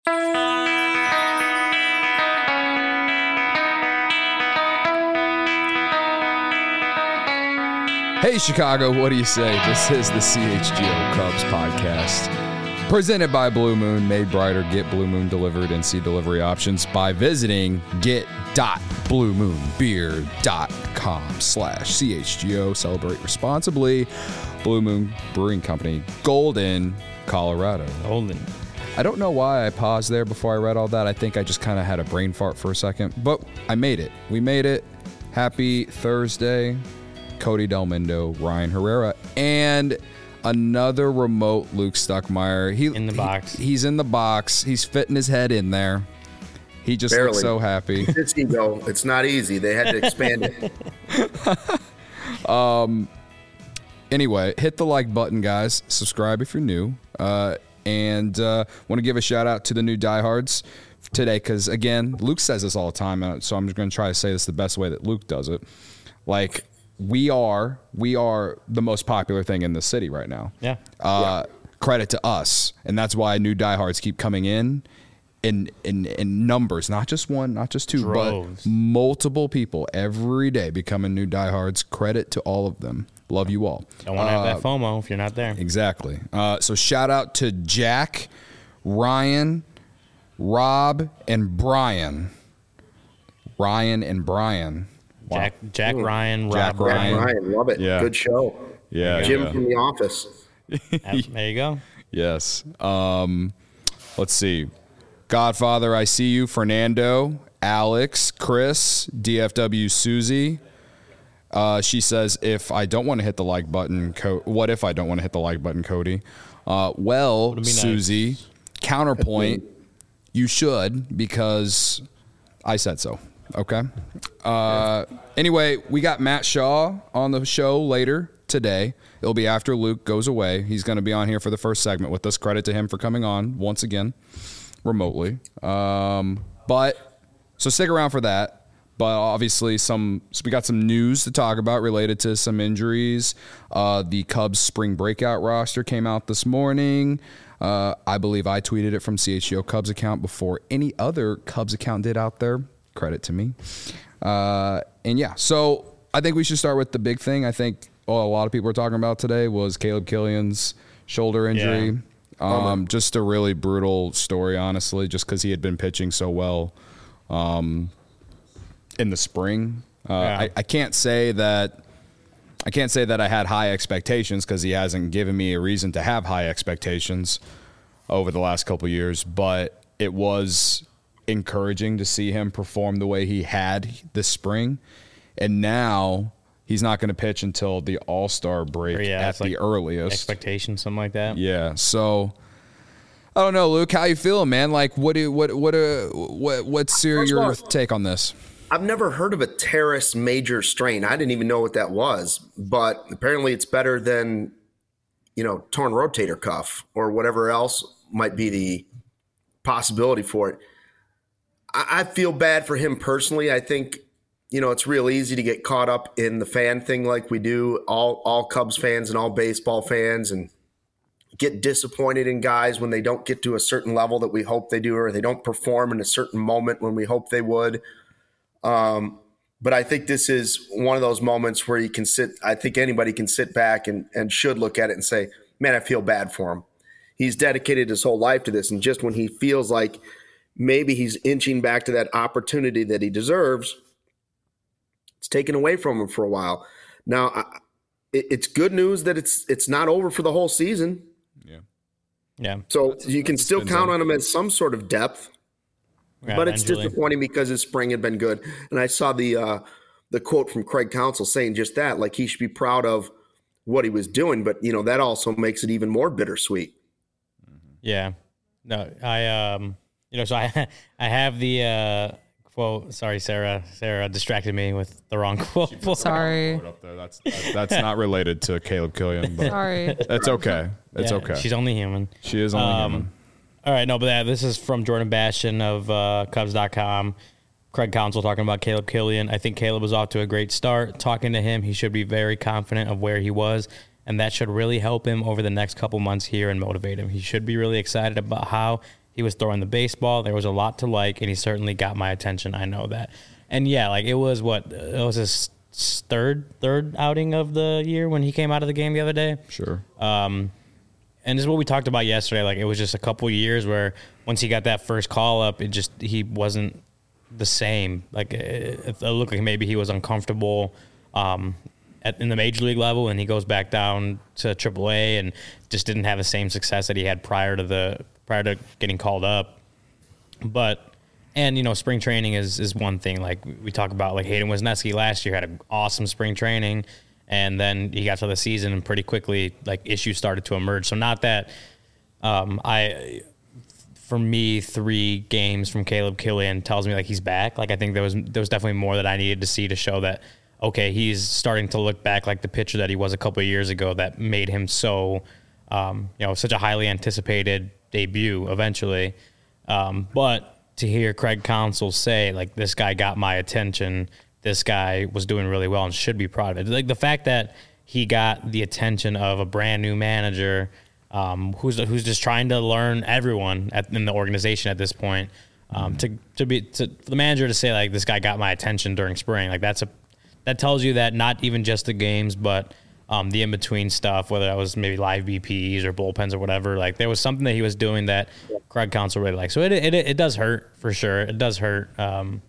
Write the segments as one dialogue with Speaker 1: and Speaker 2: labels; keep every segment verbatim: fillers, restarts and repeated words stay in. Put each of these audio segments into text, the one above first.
Speaker 1: Hey, Chicago, what do you say? This is the C H G O Cubs podcast, presented by Blue Moon, made brighter. Get Blue Moon delivered and see delivery options by visiting get dot blue moon beer dot com slash C H G O. Celebrate responsibly. Blue Moon Brewing Company, Golden, Colorado.
Speaker 2: Golden.
Speaker 1: I don't know why I paused there before I read all that. I think I just kind of had a brain fart for a second, but I made it. We made it. Happy Thursday. Cody Delmendo, Ryan Herrera, and another remote Luke Stuckmeyer. He
Speaker 2: in the box.
Speaker 1: He, he's in the box. He's fitting his head in there. He just
Speaker 3: Barely.
Speaker 1: looks so happy.
Speaker 3: It's ego. It's not easy. They had to expand it.
Speaker 1: um. Anyway, hit the like button, guys. Subscribe if you're new. Uh, and uh, want to give a shout out to the new diehards today because, again, Luke says this all the time, so I'm just going to try to say this the best way that Luke does it. Like, we are we are the most popular thing in the city right now.
Speaker 2: Yeah.
Speaker 1: Uh, yeah. Credit to us, and that's why new diehards keep coming in, in in in numbers, not just one, not just two,
Speaker 2: Droves.
Speaker 1: but multiple people every day becoming new diehards. Credit to all of them. Love you all.
Speaker 2: Don't want to
Speaker 1: uh,
Speaker 2: have that FOMO if you're not there.
Speaker 1: Exactly. Uh, so shout out to Jack, Ryan, Rob, and Brian. Ryan and Brian. Wow.
Speaker 2: Jack, Jack
Speaker 3: Ooh.
Speaker 2: Ryan,
Speaker 1: Jack
Speaker 2: Rob
Speaker 1: Ryan.
Speaker 2: Ryan.
Speaker 3: Ryan, love it.
Speaker 1: Yeah.
Speaker 3: Good show.
Speaker 1: Yeah.
Speaker 3: Jim
Speaker 1: yeah.
Speaker 3: from The Office.
Speaker 2: Yep, there you go.
Speaker 1: Yes. Um, let's see. Godfather, I see you. Fernando, Alex, Chris, D F W Susie. Uh, she says, if I don't want to hit the like button, Co- what if I don't want to hit the like button, Cody? Uh, well,
Speaker 2: nice.
Speaker 1: Susie, counterpoint, you should because I said so. Okay. Uh, anyway, we got Matt Shaw on the show later today. It'll be after Luke goes away. He's going to be on here for the first segment with us. Credit to him for coming on once again remotely. Um, but so stick around for that. But obviously, some so we got some news to talk about related to some injuries. Uh, the Cubs spring breakout roster came out this morning. Uh, I believe I tweeted it from C H G O Cubs account before any other Cubs account did out there. Credit to me. Uh, and yeah, so I think we should start with the big thing. I think well, a lot of people were talking about today was Caleb Killian's shoulder injury. Yeah. Um, just a really brutal story, honestly, just because he had been pitching so well um, in the spring. Uh,
Speaker 2: yeah.
Speaker 1: I, I can't say that I can't say that I had high expectations because he hasn't given me a reason to have high expectations over the last couple of years, but it was encouraging to see him perform the way he had this spring. And now he's not going to pitch until the All-Star break
Speaker 2: Or yeah,
Speaker 1: at
Speaker 2: it's
Speaker 1: the
Speaker 2: like
Speaker 1: earliest.
Speaker 2: Expectation, something like that.
Speaker 1: Yeah. So I don't know, Luke, how you feeling, man? Like what do what what uh, what what's your, your take on this?
Speaker 3: I've never heard of a teres major strain. I didn't even know what that was, but apparently it's better than, you know, torn rotator cuff or whatever else might be the possibility for it. I feel bad for him personally. I think, you know, it's real easy to get caught up in the fan thing like we do, all all Cubs fans and all baseball fans, and get disappointed in guys when they don't get to a certain level that we hope they do, or they don't perform in a certain moment when we hope they would. Um, but I think this is one of those moments where you can sit, I think anybody can sit back and, and should look at it and say, man, I feel bad for him. He's dedicated his whole life to this. And just when he feels like maybe he's inching back to that opportunity that he deserves, it's taken away from him for a while. Now, I, it, it's good news that it's it's not over for the whole season.
Speaker 1: Yeah.
Speaker 2: Yeah.
Speaker 3: So
Speaker 1: That's-
Speaker 3: you can
Speaker 1: that's
Speaker 3: still
Speaker 1: been
Speaker 3: count
Speaker 1: done.
Speaker 3: on him as some sort of depth,
Speaker 2: Yeah,
Speaker 3: but it's
Speaker 2: eventually.
Speaker 3: disappointing because his spring had been good. And I saw the uh, the quote from Craig Counsell saying just that, like he should be proud of what he was doing, but you know that also makes it even more bittersweet.
Speaker 2: Yeah. No, I um you know, so I I have the uh quote. Sorry, Sarah. Sarah distracted me with the wrong quote.
Speaker 4: Sorry.
Speaker 1: Up there. That's that, that's not related to Caleb Killian, but
Speaker 4: Sorry.
Speaker 1: that's okay. It's
Speaker 2: Yeah,
Speaker 1: okay.
Speaker 2: She's only human.
Speaker 1: She is only
Speaker 2: Um,
Speaker 1: human.
Speaker 2: All right, no, but that, this is from Jordan Bastian of uh, Cubs dot com. Craig Counsell talking about Caleb Killian. I think Caleb was off to a great start. Talking to him, he should be very confident of where he was, and that should really help him over the next couple months here and motivate him. He should be really excited about how He was throwing the baseball. There was a lot to like, and he certainly got my attention. I know that. And yeah, like it was what it was his third third outing of the year when he came out of the game the other day.
Speaker 1: Sure.
Speaker 2: Um, and this is what we talked about yesterday. Like it was just a couple years where once he got that first call up, it just he wasn't the same. Like it, it looked like maybe he was uncomfortable um, at in the major league level, and he goes back down to triple A and just didn't have the same success that he had prior to the prior to getting called up. But and you know, spring training is is one thing. Like we talk about, like Hayden Wesneski last year had an awesome spring training. And then he got to the season and pretty quickly, like, issues started to emerge. So not that um, I, for me, three games from Caleb Killian tells me, like, he's back. Like, I think there was there was definitely more that I needed to see to show that, okay, he's starting to look back like the pitcher that he was a couple of years ago that made him so, um, you know, such a highly anticipated debut eventually. Um, but to hear Craig Counsell say, like, this guy got my attention, this guy was doing really well and should be proud of it. Like the fact that he got the attention of a brand new manager um, who's who's just trying to learn everyone at, in the organization at this point. Um, to to be to for the manager to say like this guy got my attention during spring, like that's a that tells you that not even just the games, but um, the in between stuff, whether that was maybe live B Ps or bullpens or whatever. Like there was something that he was doing that Craig Counsell really liked. So it it it does hurt for sure. It does hurt. Um,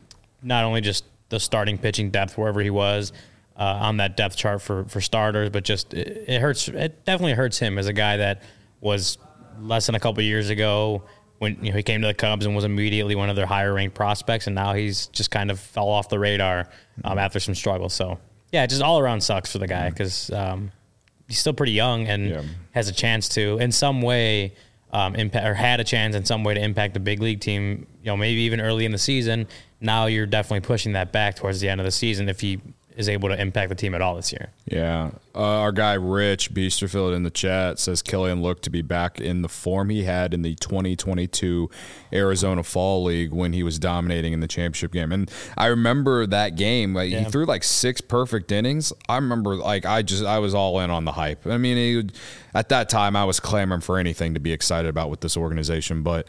Speaker 2: not only just the starting pitching depth wherever he was uh, on that depth chart for, for starters, but just it, it hurts. It definitely hurts him as a guy that was less than a couple of years ago when you know he came to the Cubs and was immediately one of their higher ranked prospects, and now he's just kind of fell off the radar um, after some struggles. So yeah, it just all around sucks for the guy because um, he's still pretty young and yeah. has a chance to in some way um, impact or had a chance in some way to impact the big league team. You know, maybe even early in the season. Now you're definitely pushing that back towards the end of the season if he is able to impact the team at all this year.
Speaker 1: Yeah. Uh, our guy Rich Biesterfield in the chat says Killian looked to be back in the form he had in the twenty twenty-two Arizona Fall League when he was dominating in the championship game. And I remember that game. Like, yeah. He threw like six perfect innings. I remember like I just I was all in on the hype. I mean, he would, at that time I was clamoring for anything to be excited about with this organization. But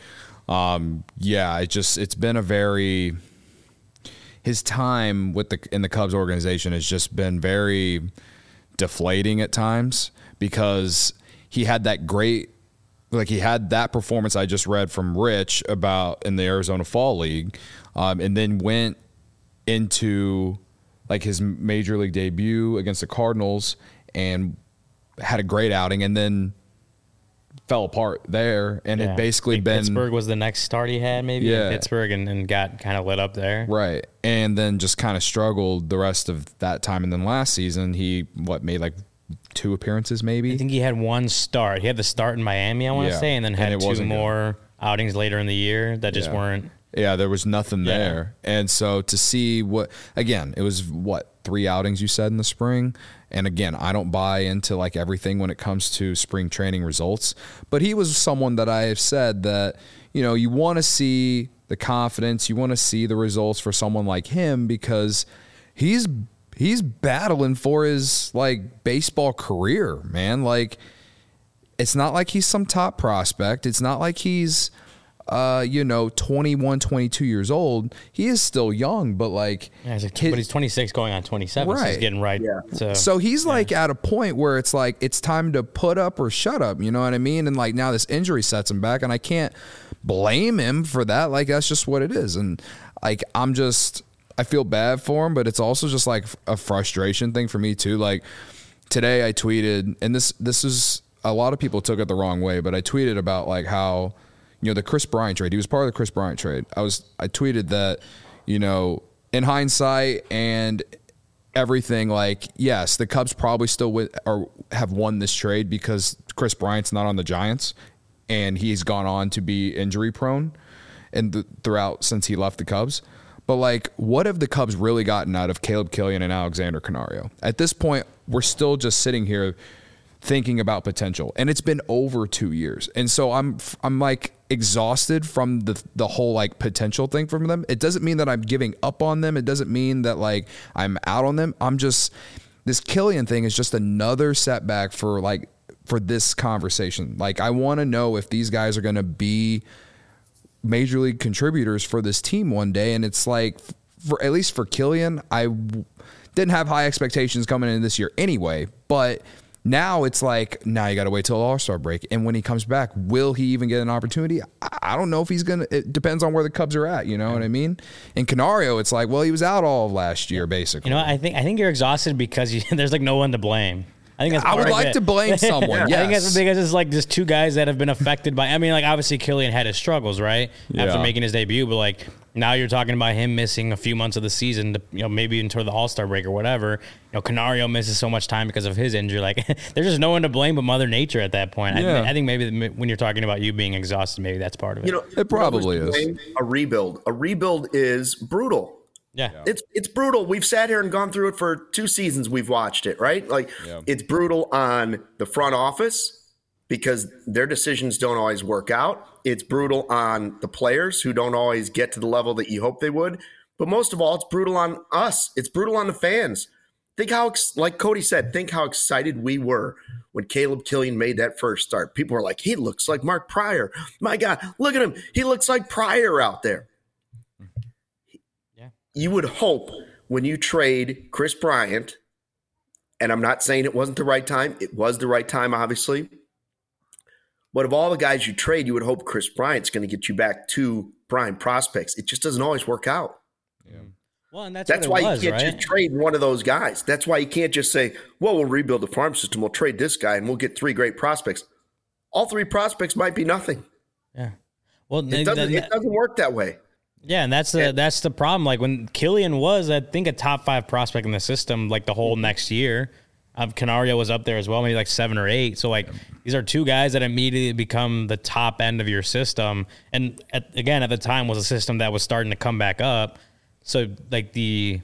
Speaker 1: um, yeah, it just it's been a very – his time with the in the Cubs organization has just been very deflating at times because he had that great, like he had that performance I just read from Rich about in the Arizona Fall League, um, and then went into like his major league debut against the Cardinals and had a great outing, and then fell apart there, and yeah. it basically been
Speaker 2: Pittsburgh was the next start he had maybe
Speaker 1: yeah.
Speaker 2: in Pittsburgh and, and got kind of lit up there.
Speaker 1: Right. And then just kind of struggled the rest of that time. And then last season he what made like two appearances maybe?
Speaker 2: I think he had one start. He had the start in Miami, I want to yeah. say, and then had and two more good. outings later in the year that just
Speaker 1: yeah.
Speaker 2: weren't
Speaker 1: Yeah, there was nothing yeah. there. And so to see what again, it was what, three outings you said in the spring? And again, I don't buy into like everything when it comes to spring training results, but he was someone that I have said that, you know, you want to see the confidence, you want to see the results for someone like him because he's he's battling for his like baseball career, man. Like it's not like he's some top prospect. It's not like he's Uh, you know, twenty-one, twenty-two years old. He is still young, but like,
Speaker 2: yeah, he's like but he's twenty-six going on twenty-seven. Right. So he's getting right.
Speaker 3: Yeah.
Speaker 2: To,
Speaker 1: so he's
Speaker 2: yeah.
Speaker 1: like at a point where it's like, it's time to put up or shut up. You know what I mean? And like now this injury sets him back and I can't blame him for that. Like, that's just what it is. And like, I'm just, I feel bad for him, but it's also just like a frustration thing for me too. Like today I tweeted, and this, this is, a lot of people took it the wrong way, but I tweeted about like how, you know, the Chris Bryant trade. He was part of the Chris Bryant trade. I was I tweeted that, you know, in hindsight and everything, like, yes, the Cubs probably still win, or have won this trade because Chris Bryant's not on the Giants and he's gone on to be injury prone and th- throughout since he left the Cubs. But like, what have the Cubs really gotten out of Caleb Killian and Alexander Canario? At this point, we're still just sitting here thinking about potential, and it's been over two years. And so I'm, I'm like exhausted from the, the whole like potential thing from them. It doesn't mean that I'm giving up on them. It doesn't mean that like I'm out on them. I'm just, this Killian thing is just another setback for like, for this conversation. Like, I want to know if these guys are going to be major league contributors for this team one day. And it's like, for at least for Killian, I w- didn't have high expectations coming in this year anyway, but now it's like, now you got to wait till the All-Star break. And when he comes back, will he even get an opportunity? I don't know if he's going to. It depends on where the Cubs are at. You know what I mean? In Canario, it's like, well, he was out all of last year, basically.
Speaker 2: You know, I think I think you're exhausted because you, there's like no one to blame. I think that's
Speaker 1: I would like
Speaker 2: it.
Speaker 1: to blame someone. Yes.
Speaker 2: I think that's because it's like just two guys that have been affected by. I mean, like obviously Killian had his struggles, right,
Speaker 1: yeah.
Speaker 2: after making his debut, but like now you're talking about him missing a few months of the season, to, you know, maybe until the All-Star break or whatever. You know, Canario misses so much time because of his injury. Like there's just no one to blame but Mother Nature at that point.
Speaker 1: Yeah.
Speaker 2: I, I think maybe when you're talking about you being exhausted, maybe that's part of it.
Speaker 3: You know,
Speaker 1: it probably
Speaker 3: you know,
Speaker 1: is
Speaker 3: a rebuild. A rebuild is brutal.
Speaker 2: Yeah.
Speaker 3: It's it's brutal. We've sat here and gone through it for two seasons. We've watched it, right? Like
Speaker 1: yeah.
Speaker 3: It's brutal on the front office because their decisions don't always work out. It's brutal on the players who don't always get to the level that you hope they would. But most of all, it's brutal on us. It's brutal on the fans. Think how, like Cody said, think how excited we were when Caleb Killian made that first start. People were like, he looks like Mark Pryor. My God, look at him. He looks like Pryor out there. You would hope when you trade Chris Bryant, and I'm not saying it wasn't the right time. It was the right time, obviously. But of all the guys you trade, you would hope Chris Bryant's going to get you back to prime prospects. It just doesn't always work out.
Speaker 2: Yeah. Well, and that's,
Speaker 3: that's
Speaker 2: what
Speaker 3: why
Speaker 2: it was,
Speaker 3: you can't
Speaker 2: right?
Speaker 3: just trade one of those guys. That's why you can't just say, well, we'll rebuild the farm system. We'll trade this guy and we'll get three great prospects. All three prospects might be nothing.
Speaker 2: Yeah. Well,
Speaker 3: it doesn't,
Speaker 2: that,
Speaker 3: it doesn't work that way.
Speaker 2: Yeah, and that's the that's the problem. Like when Killian was, I think, a top five prospect in the system, like the whole next year. Um, Canario was up there as well, maybe like seven or eight. So like these are two guys that immediately become the top end of your system. And at, again, at the time was a system that was starting to come back up. So like the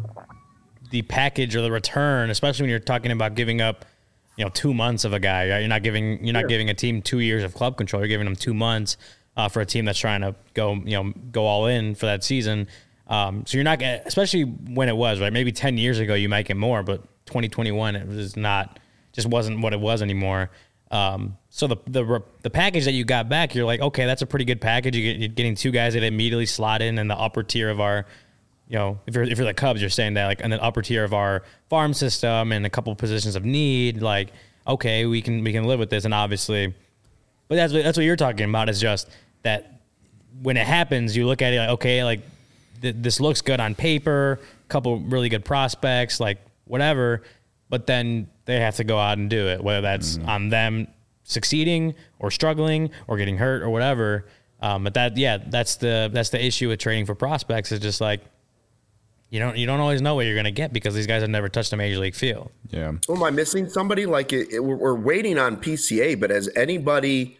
Speaker 2: the package or the return, especially when you're talking about giving up, you know, two months of a guy. Right? You're not giving you're not
Speaker 3: Sure.
Speaker 2: giving a team two years of club control. You're giving them two months. Uh, for a team that's trying to go, you know, go all in for that season. Um, so you're not gonna, especially when it was, right? Maybe ten years ago you might get more, but twenty twenty-one it was not, just wasn't what it was anymore. Um, so the the the package that you got back, you're like, okay, that's a pretty good package. You get, you're getting two guys that immediately slot in in the upper tier of our, you know, if you're if you're the Cubs, you're saying that like in the upper tier of our farm system and a couple positions of need. Like, okay, we can we can live with this, and obviously, but that's what, that's what you're talking about is just that when it happens, you look at it like, okay, like th- this looks good on paper, a couple really good prospects, like whatever, but then they have to go out and do it, whether that's mm-hmm. on them succeeding or struggling or getting hurt or whatever. Um, but that, yeah, that's the that's the issue with trading for prospects is just like you don't you don't always know what you're gonna get because these guys have never touched a major league field.
Speaker 1: Yeah.
Speaker 3: So am I missing somebody? Like it, it, we're, we're waiting on P C A, but has anybody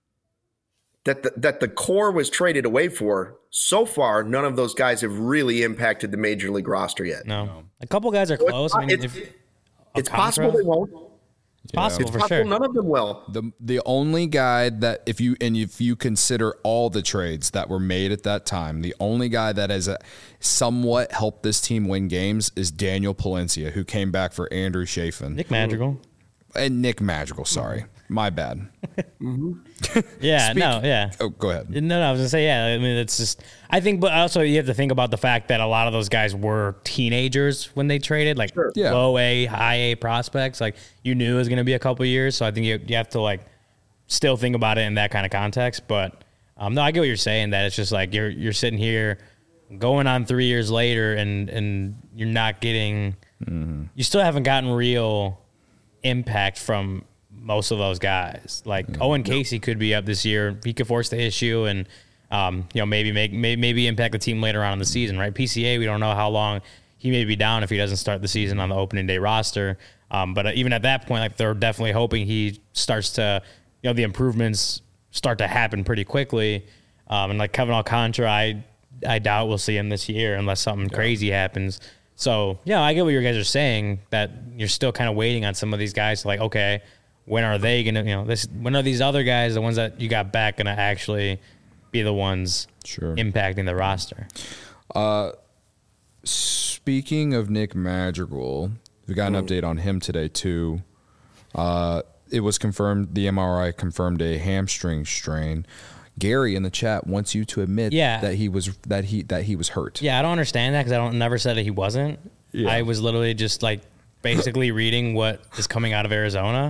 Speaker 3: that the, that the core was traded away for, so far, none of those guys have really impacted the major league roster yet.
Speaker 2: No. no. A couple guys are
Speaker 3: so
Speaker 2: close.
Speaker 3: It's,
Speaker 2: I mean,
Speaker 3: it's,
Speaker 2: if,
Speaker 3: it's possible they won't.
Speaker 2: It's possible
Speaker 3: It's
Speaker 2: for
Speaker 3: possible
Speaker 2: sure.
Speaker 3: none of them will.
Speaker 1: The the only guy that if you and if you consider all the trades that were made at that time, the only guy that has a, somewhat helped this team win games is Daniel Palencia, who came back for Andrew Chafin.
Speaker 2: Nick Madrigal.
Speaker 1: And Nick Madrigal, sorry. My bad.
Speaker 2: mm-hmm. Yeah,
Speaker 1: Speak,
Speaker 2: no, yeah.
Speaker 1: Oh, go ahead.
Speaker 2: No, no, I was gonna say, yeah. I mean, it's just, I think, but also you have to think about the fact that a lot of those guys were teenagers when they traded, like
Speaker 3: Sure.
Speaker 1: Yeah.
Speaker 2: low A, high A prospects. Like you knew it was gonna be a couple years, so I think you you have to like still think about it in that kind of context. But um, no, I get what you're saying. That it's just like you're you're sitting here, going on three years later, and and you're not getting, mm-hmm. you still haven't gotten real impact from most of those guys. Like mm-hmm. Owen Casey could be up this year. He could force the issue and, um, you know, maybe make maybe, maybe impact the team later on in the season, right? P C A, we don't know how long he may be down if he doesn't start the season on the opening day roster. Um, but even at that point, like they're definitely hoping he starts to, you know, the improvements start to happen pretty quickly. Um, and like Kevin Alcantara, I I doubt we'll see him this year unless something yeah. crazy happens. So, yeah, I get what you guys are saying, that you're still kind of waiting on some of these guys to like, okay, when are they going to, you know, this, when are these other guys, the ones that you got back, going to actually be the ones
Speaker 1: sure.
Speaker 2: impacting the roster?
Speaker 1: Uh, speaking of Nick Madrigal, we got an mm. update on him today, too. Uh, it was confirmed, the M R I confirmed a hamstring strain. Gary in the chat wants you to admit
Speaker 2: Yeah.
Speaker 1: that he was that he that he was hurt.
Speaker 2: Yeah, I don't understand that because I don't never said that he wasn't.
Speaker 1: Yeah.
Speaker 2: I was literally just like basically reading what is coming out of Arizona.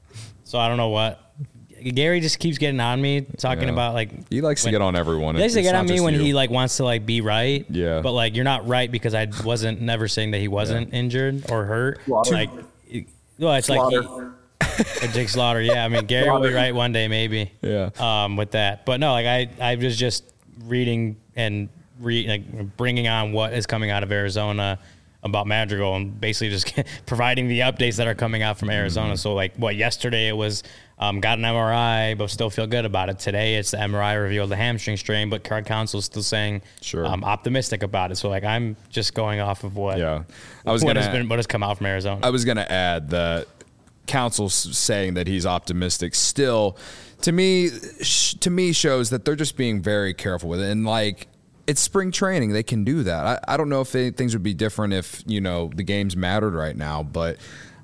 Speaker 2: So I don't know what. Gary just keeps getting on me talking
Speaker 1: Yeah.
Speaker 2: about like
Speaker 1: He likes
Speaker 2: when,
Speaker 1: to get on everyone.
Speaker 2: He likes to
Speaker 1: It's
Speaker 2: get
Speaker 1: not
Speaker 2: on me
Speaker 1: just
Speaker 2: when
Speaker 1: you.
Speaker 2: he like wants to like be right.
Speaker 1: Yeah.
Speaker 2: But like you're not right because I wasn't never saying that he wasn't injured or hurt.
Speaker 3: Slaughter.
Speaker 2: Like, it- well, it's
Speaker 3: Slaughter.
Speaker 2: like he, Jake Slaughter. Yeah, I mean Gary will be right one day maybe.
Speaker 1: Yeah.
Speaker 2: Um, with that, but no, like I I was just reading and re like bringing on what is coming out of Arizona about Madrigal and basically just providing the updates that are coming out from Arizona.
Speaker 1: Mm-hmm.
Speaker 2: So like what yesterday it was um, got an M R I but still feel good about it. Today it's the M R I revealed the hamstring strain, but Card Council is still saying
Speaker 1: Sure.
Speaker 2: um, optimistic about it. So like I'm just going off of what
Speaker 1: Yeah. I was
Speaker 2: what
Speaker 1: gonna
Speaker 2: has been what has come out from Arizona.
Speaker 1: I was going to add that Council's saying that he's optimistic still to me sh- to me shows that they're just being very careful with it. And like it's spring training, they can do that. I, I don't know if they, things would be different if, you know, the games mattered right now, but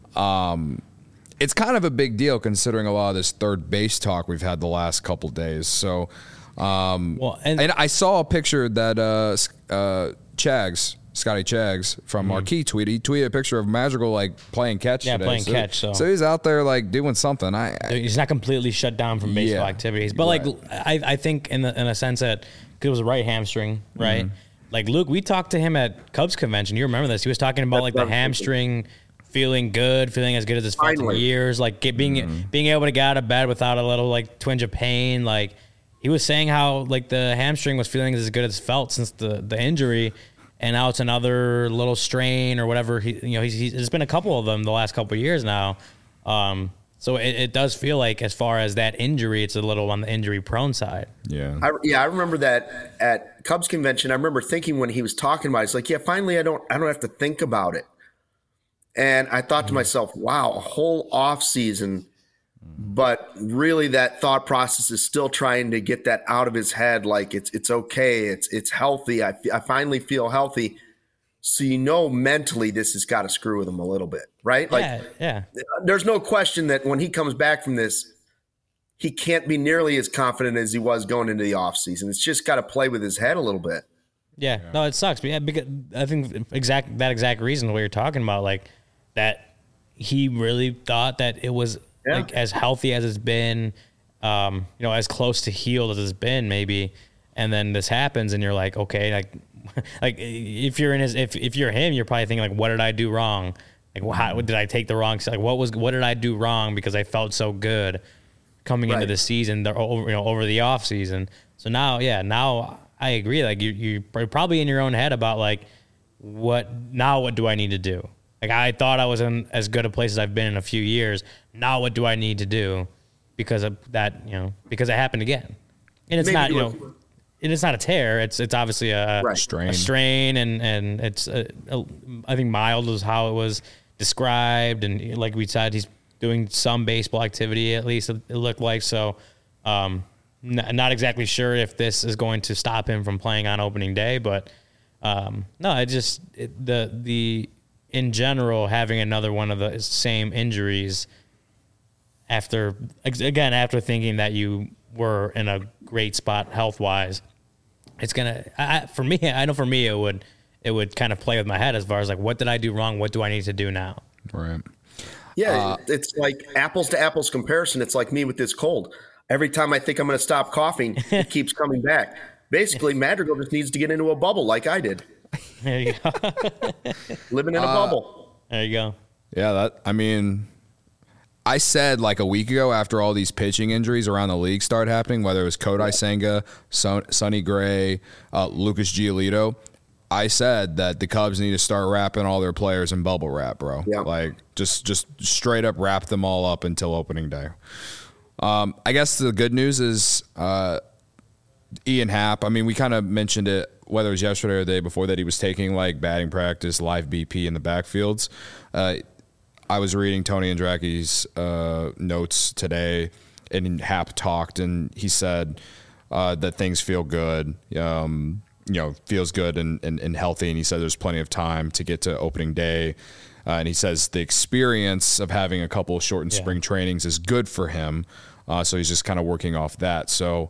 Speaker 1: um, it's kind of a big deal considering a lot of this third base talk we've had the last couple days. So um,
Speaker 2: Well, and-
Speaker 1: and I saw a picture that uh, S- uh, Chags Scotty Chags from Marquee tweeted. He tweeted a picture of Madrigal like playing catch.
Speaker 2: Yeah,
Speaker 1: today.
Speaker 2: playing
Speaker 1: so,
Speaker 2: catch, so.
Speaker 1: so he's out there like doing something. I, I
Speaker 2: He's not completely shut down from baseball
Speaker 1: Yeah.
Speaker 2: activities, but
Speaker 1: Right.
Speaker 2: like I, I think in the in a sense that cause it was a right hamstring, right?
Speaker 1: Mm-hmm.
Speaker 2: Like Luke, we talked to him at Cubs convention. You remember this? He was talking about
Speaker 3: That's
Speaker 2: like
Speaker 3: what
Speaker 2: the
Speaker 3: I'm thinking.
Speaker 2: hamstring feeling good, feeling as good as it's felt in
Speaker 3: Finally.
Speaker 2: years, like get, being
Speaker 1: Mm-hmm.
Speaker 2: being able to get out of bed without a little like twinge of pain. Like he was saying how like the hamstring was feeling as good as it's felt since the the injury. And now it's another little strain or whatever. He, you know, he's, he's there's been a couple of them the last couple of years now. Um, so it, it does feel like, as far as that injury, it's a little on the injury prone side.
Speaker 1: yeah.
Speaker 3: I, yeah, I remember that at Cubs convention. I remember thinking when he was talking about it, it's like, yeah, finally, I don't, I don't have to think about it. And I thought to myself, wow, a whole off season, but really that thought process is still trying to get that out of his head. Like it's, it's okay. It's, it's healthy. I, I finally feel healthy. So, you know, mentally this has got to screw with him a little bit, right? Like
Speaker 2: yeah, yeah,
Speaker 3: there's no question that when he comes back from this, he can't be nearly as confident as he was going into the offseason. It's just got to play with his head a little bit.
Speaker 2: yeah. No, it sucks. But yeah, because I think exact that exact reason what you're talking about, like that he really thought that it was
Speaker 3: Yeah.
Speaker 2: like as healthy as it's been, um, you know, as close to healed as it's been, maybe. And then this happens, and you're like, okay, like, like if you're in his, if if you're him, you're probably thinking like, what did I do wrong? Like, well, how did I take the wrong? Like, what was what did I do wrong? Because I felt so good coming into
Speaker 3: Right.
Speaker 2: the season, the, over you know, over the off season. So now, yeah, now I agree. Like you, you're probably in your own head about like, what now? What do I need to do? Like I thought I was in as good a place as I've been in a few years. Now what do I need to do? Because of that, you know, because it happened again, and it's
Speaker 3: Maybe
Speaker 2: not, you
Speaker 3: do
Speaker 2: know,
Speaker 3: it-
Speaker 2: and it's not a tear. It's it's obviously a,
Speaker 3: Right.
Speaker 1: Strain.
Speaker 2: a strain, and and it's a, a, I think mild is how it was described, and like we said, he's doing some baseball activity at least. It looked like so. Um, n- not exactly sure if this is going to stop him from playing on opening day, but um, no, it just it, the the in general having another one of the same injuries after again after thinking that you were in a great spot health wise, it's gonna I, for me. I know for me it would it would kind of play with my head as far as like what did I do wrong? What do I need to do now?
Speaker 1: Right.
Speaker 3: Yeah, it's like apples to apples comparison. It's like me with this cold. Every time I think I'm going to stop coughing, it keeps coming back. Basically, Madrigal just needs to get into a bubble like I did,
Speaker 2: There you go.
Speaker 3: living in a bubble.
Speaker 2: There you go.
Speaker 1: Yeah, that I mean, I said like a week ago after all these pitching injuries around the league started happening, whether it was Kodai Senga, Son, Sonny Gray, uh, Lucas Giolito, I said that the Cubs need to start wrapping all their players in bubble wrap, bro.
Speaker 3: Yeah.
Speaker 1: Like just just straight up wrap them all up until opening day. Um, I guess the good news is uh, Ian Happ. I mean, we kind of mentioned it, whether it was yesterday or the day before, that he was taking like batting practice, live B P in the backfields. Uh, I was reading Tony Andracki's uh, notes today, and Happ talked, and he said uh, that things feel good. Um, you know, feels good and, and, and healthy, and he said there's plenty of time to get to opening day. Uh, and he says the experience of having a couple of shortened
Speaker 2: Yeah.
Speaker 1: spring trainings is good for him. Uh, so he's just kind of working off that. So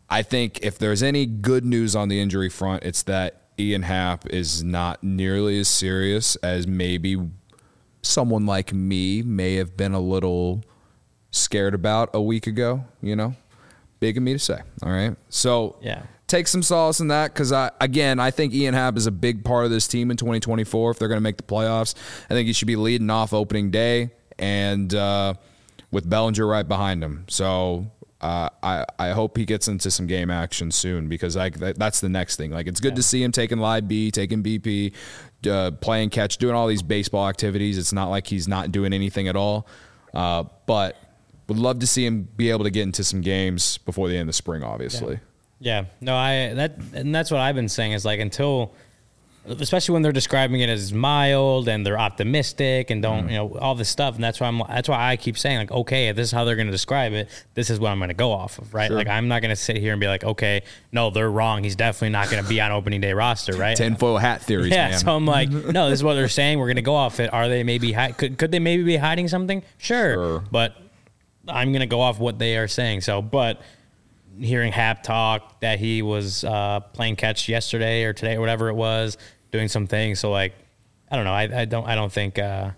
Speaker 1: I think if there's any good news on the injury front, it's that Ian Happ is not nearly as serious as maybe someone like me may have been a little scared about a week ago, you know? Big of me to say, all right? So
Speaker 2: yeah.
Speaker 1: take some solace in that because, I again, I think Ian Happ is a big part of this team in twenty twenty-four if they're going to make the playoffs. I think he should be leading off opening day and uh, with Bellinger right behind him. So uh, I, I hope he gets into some game action soon because I, that, that's the next thing. Like, it's good yeah. to see him taking live B, taking B P, uh, playing catch, doing all these baseball activities. It's not like he's not doing anything at all. Uh, but would love to see him be able to get into some games before the end of the spring, obviously.
Speaker 2: Yeah. yeah. No, I that and that's what I've been saying is like until especially when they're describing it as mild and they're optimistic and don't, mm. you know, all this stuff. And that's why I'm, that's why I keep saying like, okay, if this is how they're going to describe it, this is what I'm going to go off of. Right. Sure. Like, I'm not going to sit here and be like, okay, no, they're wrong. He's definitely not going to be on opening day roster. Right.
Speaker 1: Tinfoil hat theories.
Speaker 2: Yeah.
Speaker 1: Man.
Speaker 2: So I'm like, no, this is what they're saying. We're going to go off it. Are they maybe, hi- could, could they maybe be hiding something? Sure. sure. But I'm going to go off what they are saying. So, but hearing Happ talk that he was uh, playing catch yesterday or today or whatever it was, doing some things. So like, I don't know. I, I don't, I don't think, uh,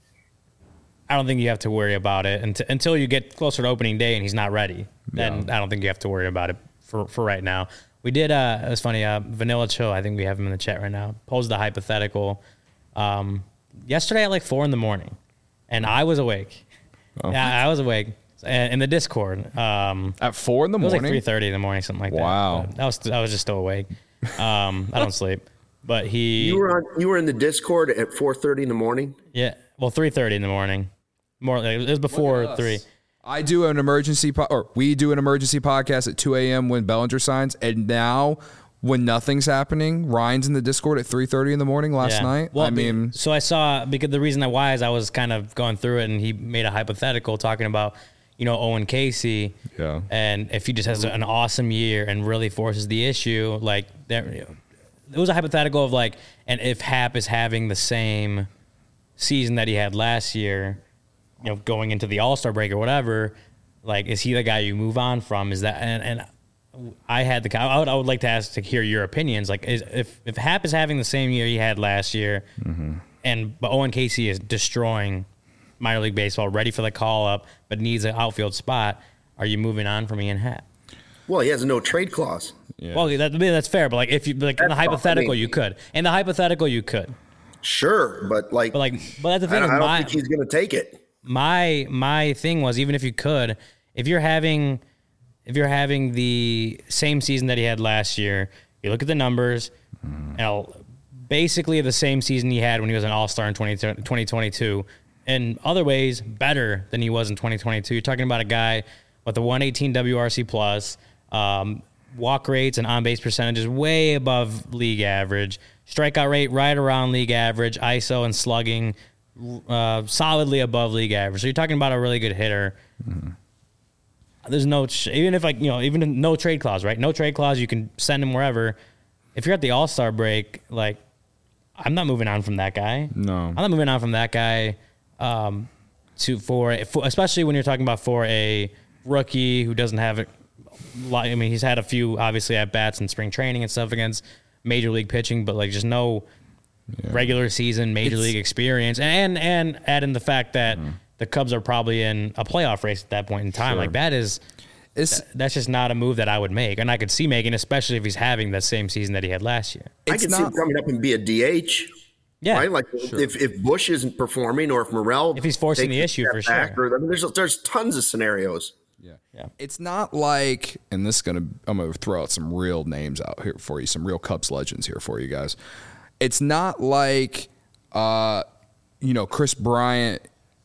Speaker 2: I don't think you have to worry about it until, until you get closer to opening day and he's not ready. Then yeah. I don't think you have to worry about it for, for right now. We did, uh, it was funny, uh, Vanilla Chill, I think we have him in the chat right now, posed a hypothetical um, yesterday at like four in the morning. And I was awake. Oh. Yeah, I was awake. In the Discord. Um,
Speaker 1: at four in the morning?
Speaker 2: It was like three thirty in the morning, something like
Speaker 1: wow.
Speaker 2: that. Wow. I was, I was just still awake. Um, I don't sleep. But he...
Speaker 3: You were on, you were in the Discord at four thirty in the morning?
Speaker 2: Yeah. Well, three thirty in the morning. More. It was before three.
Speaker 1: I do an emergency... Po- or we do an emergency podcast at two a.m. when Bellinger signs. And now, when nothing's happening, Ryan's in the Discord at three thirty in the morning last yeah. night.
Speaker 2: Well,
Speaker 1: I mean...
Speaker 2: So I saw... Because the reason why is I was kind of going through it, and he made a hypothetical talking about... You know, Owen Casey,
Speaker 1: yeah.
Speaker 2: and if he just has an awesome year and really forces the issue, like there, you know, it was a hypothetical of like, and if Happ is having the same season that he had last year, you know, going into the All-Star break or whatever, like, is he the guy you move on from? Is that, and, and I had the, I would, I would like to ask to hear your opinions. Like, is, if, if Happ is having the same year he had last year, mm-hmm. and, but Owen Casey is destroying minor league baseball, ready for the call up, but needs an outfield spot, are you moving on from Ian Happ?
Speaker 3: Well, he has a no trade clause.
Speaker 2: Yeah. Well, that, that's fair, but like if you like that's in the hypothetical, I mean, you could. In the hypothetical, you could.
Speaker 3: Sure, but like,
Speaker 2: but like, but that's the thing.
Speaker 3: I don't, I don't
Speaker 2: my,
Speaker 3: think he's going to take it.
Speaker 2: My my thing was even if you could, if you're having, if you're having the same season that he had last year, you look at the numbers, mm. and basically the same season he had when he was an All-Star in twenty twenty-two. In other ways, better than he was in twenty twenty-two. You're talking about a guy with a one eighteen W R C plus, um, walk rates and on-base percentages way above league average, strikeout rate right around league average, I S O and slugging uh, solidly above league average. So you're talking about a really good hitter. Mm-hmm. There's no, even if like, you know, even no trade clause, right? No trade clause, you can send him wherever. If you're at the All-Star break, like, I'm not moving on from that guy.
Speaker 1: No.
Speaker 2: I'm not moving on from that guy. Um, to for, for especially when you're talking about for a rookie who doesn't have a lot. I mean, he's had a few obviously at bats in spring training and stuff against major league pitching, but like just no yeah. regular season major it's, league experience, and and add in the fact that mm. the Cubs are probably in a playoff race at that point in time. Sure. Like that is, it's, that's just not a move that I would make, and I could see making, especially if he's having that same season that he had last year.
Speaker 3: I could see him coming up and be a D H.
Speaker 2: Yeah,
Speaker 3: right? Like
Speaker 2: sure.
Speaker 3: if, if Bush isn't performing or if Morel
Speaker 2: if he's forcing the issue for sure.
Speaker 3: Or, I mean, there's there's tons of scenarios.
Speaker 1: Yeah, yeah. It's not like, and this is gonna I'm gonna throw out some real names out here for you, some real Cubs legends here for you guys. It's not like, uh, you know, Chris Bryant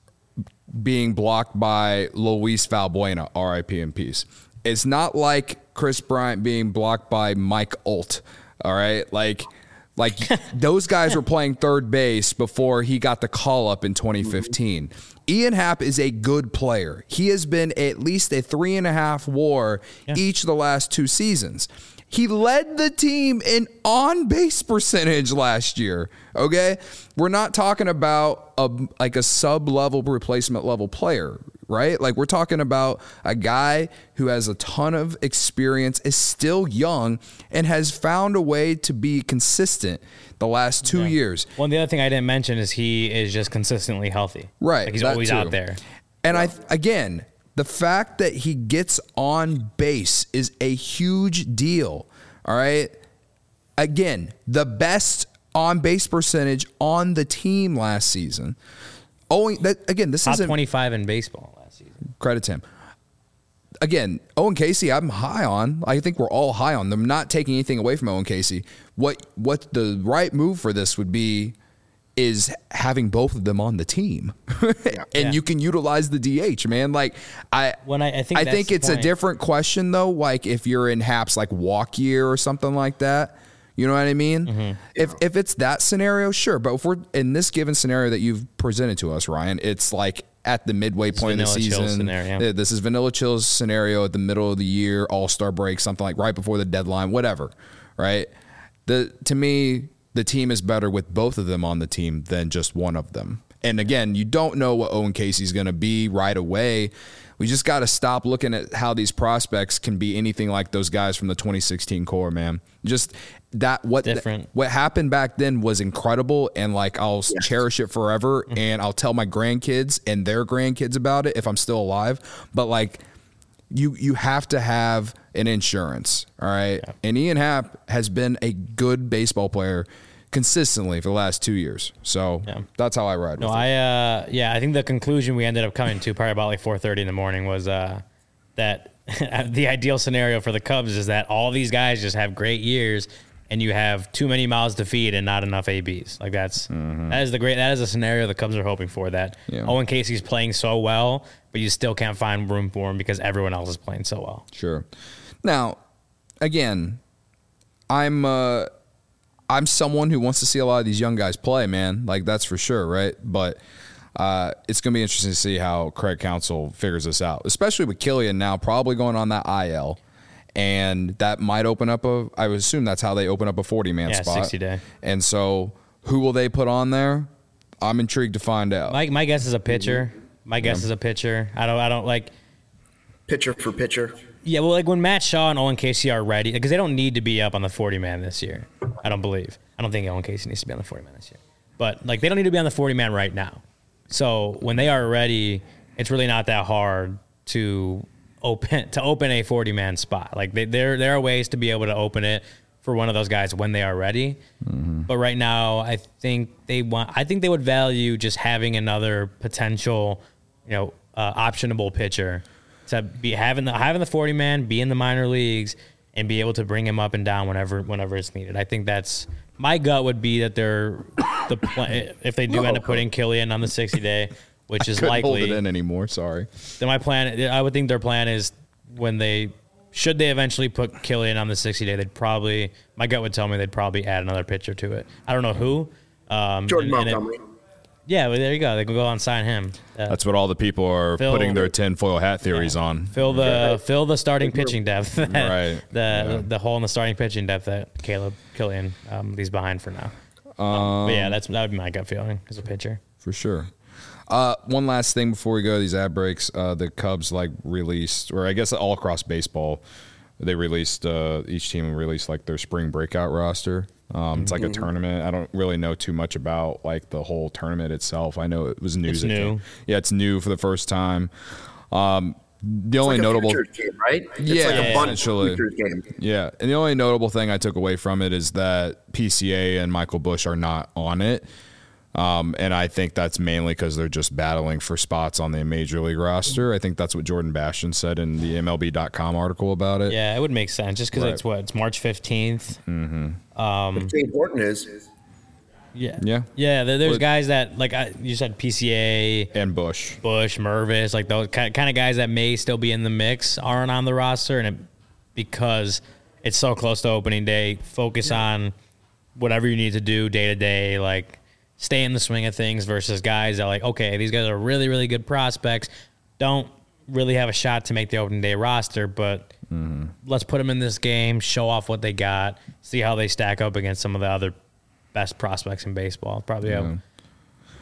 Speaker 1: being blocked by Luis Valbuena, R I P in peace. It's not like Chris Bryant being blocked by Mike Olt. All right, like. Like, those guys were playing third base before he got the call-up in twenty fifteen. Mm-hmm. Ian Happ is a good player. He has been at least a three-and-a-half WAR yeah. each of the last two seasons. He led the team in on-base percentage last year, okay? We're not talking about a, like a sub-level replacement-level player. right? Like we're talking about a guy who has a ton of experience, is still young, and has found a way to be consistent the last two
Speaker 2: Yeah.
Speaker 1: years.
Speaker 2: Well, the other thing I didn't mention is he is just consistently healthy.
Speaker 1: Right.
Speaker 2: Like he's
Speaker 1: that
Speaker 2: always
Speaker 1: too.
Speaker 2: out there.
Speaker 1: And I, again, the fact that he gets on base is a huge deal. All right. Again, the best on base percentage on the team last season. Owing that again, this
Speaker 2: Top
Speaker 1: isn't
Speaker 2: twenty-five in baseball last season.
Speaker 1: credit to him. Again, Owen Casey, I'm high on. I think we're all high on them. Not taking anything away from Owen Casey. What what the right move for this would be is having both of them on the team, and
Speaker 2: Yeah.
Speaker 1: you can utilize the D H, man. Like I,
Speaker 2: When I- I think
Speaker 1: I
Speaker 2: that's
Speaker 1: think
Speaker 2: the
Speaker 1: it's a
Speaker 2: point.
Speaker 1: different question though. Like if you're in Hap's like walk year or something like that. You know what I mean?
Speaker 2: Mm-hmm.
Speaker 1: If if it's that scenario, sure. But if we're in this given scenario that you've presented to us, Ryan, it's like at the midway point of the
Speaker 2: Vanilla Chill's
Speaker 1: season.
Speaker 2: scenario.
Speaker 1: Uh, This is Vanilla Chill's scenario at the middle of the year, All-Star break, something like right before the deadline, whatever. Right? The to me, the team is better with both of them on the team than just one of them. And again, you don't know what Owen Casey's going to be right away. We just got to stop looking at how these prospects can be anything like those guys from the twenty sixteen core, man. Just that what
Speaker 2: Different.
Speaker 1: what happened back then was incredible, and like I'll cherish it forever, and I'll tell my grandkids and their grandkids about it if I'm still alive. But like you you have to have an insurance, all right?
Speaker 2: Yeah.
Speaker 1: And Ian Happ has been a good baseball player consistently for the last two years. So
Speaker 2: Yeah.
Speaker 1: that's how I ride
Speaker 2: No,
Speaker 1: with it.
Speaker 2: I uh yeah, I think the conclusion we ended up coming to probably about like four thirty in the morning was uh that the ideal scenario for the Cubs is that all these guys just have great years and you have too many mouths to feed and not enough A Bs. Like that's that is the great that is a scenario the Cubs are hoping for, that
Speaker 1: Yeah.
Speaker 2: Owen Casey's playing so well, but you still can't find room for him because everyone else is playing so well.
Speaker 1: Sure. Now, again, I'm uh, I'm someone who wants to see a lot of these young guys play, man. Like that's for sure, right? But uh, it's going to be interesting to see how Craig Counsell figures this out, especially with Killian now probably going on that I L, and that might open up a. I would assume that's how they open up a forty man
Speaker 2: Yeah,
Speaker 1: spot,
Speaker 2: sixty day.
Speaker 1: And so, who will they put on there? I'm intrigued to find out.
Speaker 2: My my guess is a pitcher. My guess is a pitcher. I don't I don't like
Speaker 3: Pitcher for pitcher.
Speaker 2: Yeah, well, like when Matt Shaw and Owen Casey are ready, because they don't need to be up on the forty man this year. I don't believe. I don't think Owen Casey needs to be on the forty man this year. But like they don't need to be on the forty man right now. So when they are ready, it's really not that hard to open to open a forty man spot. Like they, there there are ways to be able to open it for one of those guys when they are ready. Mm-hmm. But right now, I think they want. I think they would value just having another potential, you know, uh, optionable pitcher to be having the having the forty man, be in the minor leagues, and be able to bring him up and down whenever whenever it's needed. I think that's my gut would be that they're the pl- if they do end up putting Killian on the sixty day, which is
Speaker 1: Couldn't
Speaker 2: likely.
Speaker 1: hold it in anymore. Sorry.
Speaker 2: Then my plan, I would think their plan is when they should they eventually put Killian on the sixty day, they'd probably my gut would tell me they'd probably add another pitcher to it. I don't know who. Um,
Speaker 3: Jordan
Speaker 2: and- and it-
Speaker 3: Montgomery.
Speaker 2: yeah, well, there you go. They can go and sign him. Uh,
Speaker 1: That's what all the people are
Speaker 2: Phil-
Speaker 1: putting their tinfoil hat theories on.
Speaker 2: Fill the fill the starting pitching depth. that-
Speaker 1: Right.
Speaker 2: The
Speaker 1: Yeah.
Speaker 2: the hole in the starting pitching depth that Caleb Killian um, leaves behind for now. Um, but yeah, that's that would be my gut feeling as a pitcher.
Speaker 1: For sure. Uh, one last thing before we go to these ad breaks. Uh, the Cubs like released, or I guess all across baseball, they released uh, each team released like their spring breakout roster. Um, it's like a tournament. I don't really know too much about like the whole tournament itself. I know it was news.
Speaker 2: It's
Speaker 1: that
Speaker 2: new.
Speaker 1: came- Yeah, it's new for the first time. Um, the only
Speaker 3: Like a
Speaker 1: notable,
Speaker 3: futures game, right? It's
Speaker 1: Yeah,
Speaker 3: like a bunch
Speaker 1: essentially.
Speaker 3: futures game.
Speaker 1: yeah, and the only notable thing I took away from it is that P C A and Michael Busch are not on it. Um, and I think that's mainly because they're just battling for spots on the major league roster. I think that's what Jordan Bastian said in the M L B dot com article about it.
Speaker 2: Yeah, it would make sense just because
Speaker 1: Right.
Speaker 2: it's what it's March fifteenth.
Speaker 3: What's important is
Speaker 2: Yeah,
Speaker 1: Yeah.
Speaker 2: yeah. There, there's
Speaker 1: Well-
Speaker 2: guys that like I, you said P C A,
Speaker 1: And Bush.
Speaker 2: Bush, Mervis, like those kind kind of guys that may still be in the mix aren't on the roster, and it, because it's so close to opening day, focus on whatever you need to do day to day, like stay in the swing of things versus guys that like, okay, these guys are really, really good prospects, don't really have a shot to make the opening day roster, but let's put them in this game, show off what they got, see how they stack up against some of the other best prospects in baseball. Probably a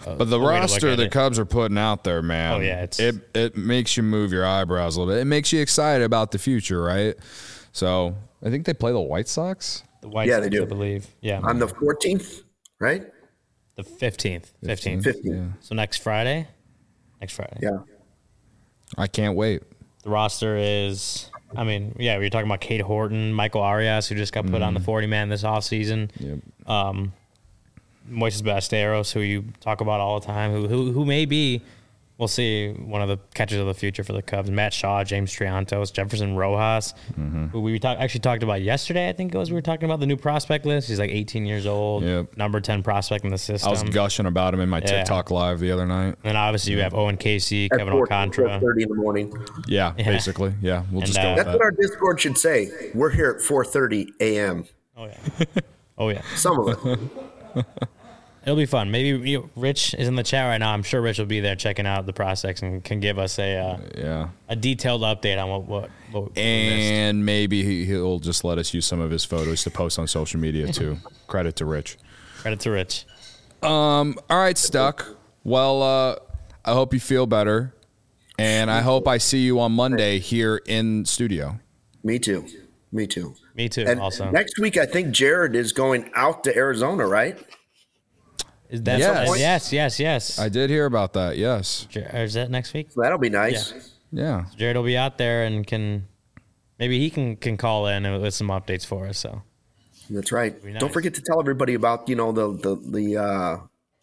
Speaker 1: But the
Speaker 2: a way to look
Speaker 1: roster
Speaker 2: at
Speaker 1: the
Speaker 2: it.
Speaker 1: Cubs are putting out there, man.
Speaker 2: Oh, yeah, it's-
Speaker 1: it it makes you move your eyebrows a little bit. It makes you excited about the future, right? So I think they play the White Sox.
Speaker 2: The White
Speaker 3: Yeah,
Speaker 2: Sox,
Speaker 3: they do.
Speaker 2: I believe. Yeah,
Speaker 3: On the fourteenth, right?
Speaker 2: the fifteenth. fifteenth.
Speaker 3: fifteenth.
Speaker 2: So next Friday? Next Friday.
Speaker 3: Yeah.
Speaker 1: I can't wait.
Speaker 2: The roster is, I mean, yeah, we were talking about Cade Horton, Michael Arias, who just got put on the forty-man this offseason.
Speaker 1: Yep.
Speaker 2: Um, Moises Ballesteros, who you talk about all the time, who who who may be, we'll see, one of the catchers of the future for the Cubs. Matt Shaw, James Triantos, Jefferson Rojas,
Speaker 1: Mm-hmm.
Speaker 2: who we talk, actually talked about yesterday, I think it was. We were talking about the new prospect list. He's like eighteen years old,
Speaker 1: Yep.
Speaker 2: number ten prospect in the system.
Speaker 1: I was gushing about him in my
Speaker 2: Yeah.
Speaker 1: TikTok live the other night.
Speaker 2: And then obviously you have Owen Casey,
Speaker 3: At
Speaker 2: Kevin
Speaker 3: four
Speaker 2: Alcantara.
Speaker 3: thirty in the morning.
Speaker 1: Yeah, basically. Yeah, we'll
Speaker 2: And,
Speaker 1: just
Speaker 2: uh,
Speaker 1: go with
Speaker 3: That's
Speaker 1: that.
Speaker 3: what our Discord should say. We're here at four thirty a.m.
Speaker 2: Oh, yeah. Oh, yeah.
Speaker 3: Some of it.
Speaker 2: It'll be fun. Maybe you know, Rich is in the chat right now. I'm sure Rich will be there checking out the prospects and can give us a uh,
Speaker 1: Yeah.
Speaker 2: a detailed update on what what, what we missed.
Speaker 1: And maybe he, he'll just let us use some of his photos to post on social media too. Credit to Rich.
Speaker 2: Credit to Rich.
Speaker 1: All right, Stuck. Well, uh, I hope you feel better. And I hope I see you on Monday here in studio.
Speaker 3: Me too. Me too.
Speaker 2: Me too.
Speaker 3: And
Speaker 2: also,
Speaker 3: next week, I think Jared is going out to Arizona, right?
Speaker 2: is that
Speaker 1: Yes.
Speaker 2: yes, yes, yes.
Speaker 1: I did hear about that. Yes.
Speaker 2: Jer- or is that next week?
Speaker 3: So that'll be nice.
Speaker 1: Yeah.
Speaker 2: Jared will be out there and can maybe he can can call in with some updates for us. So
Speaker 3: That's right.
Speaker 2: Be nice.
Speaker 3: Don't forget to tell everybody about you know the the the uh,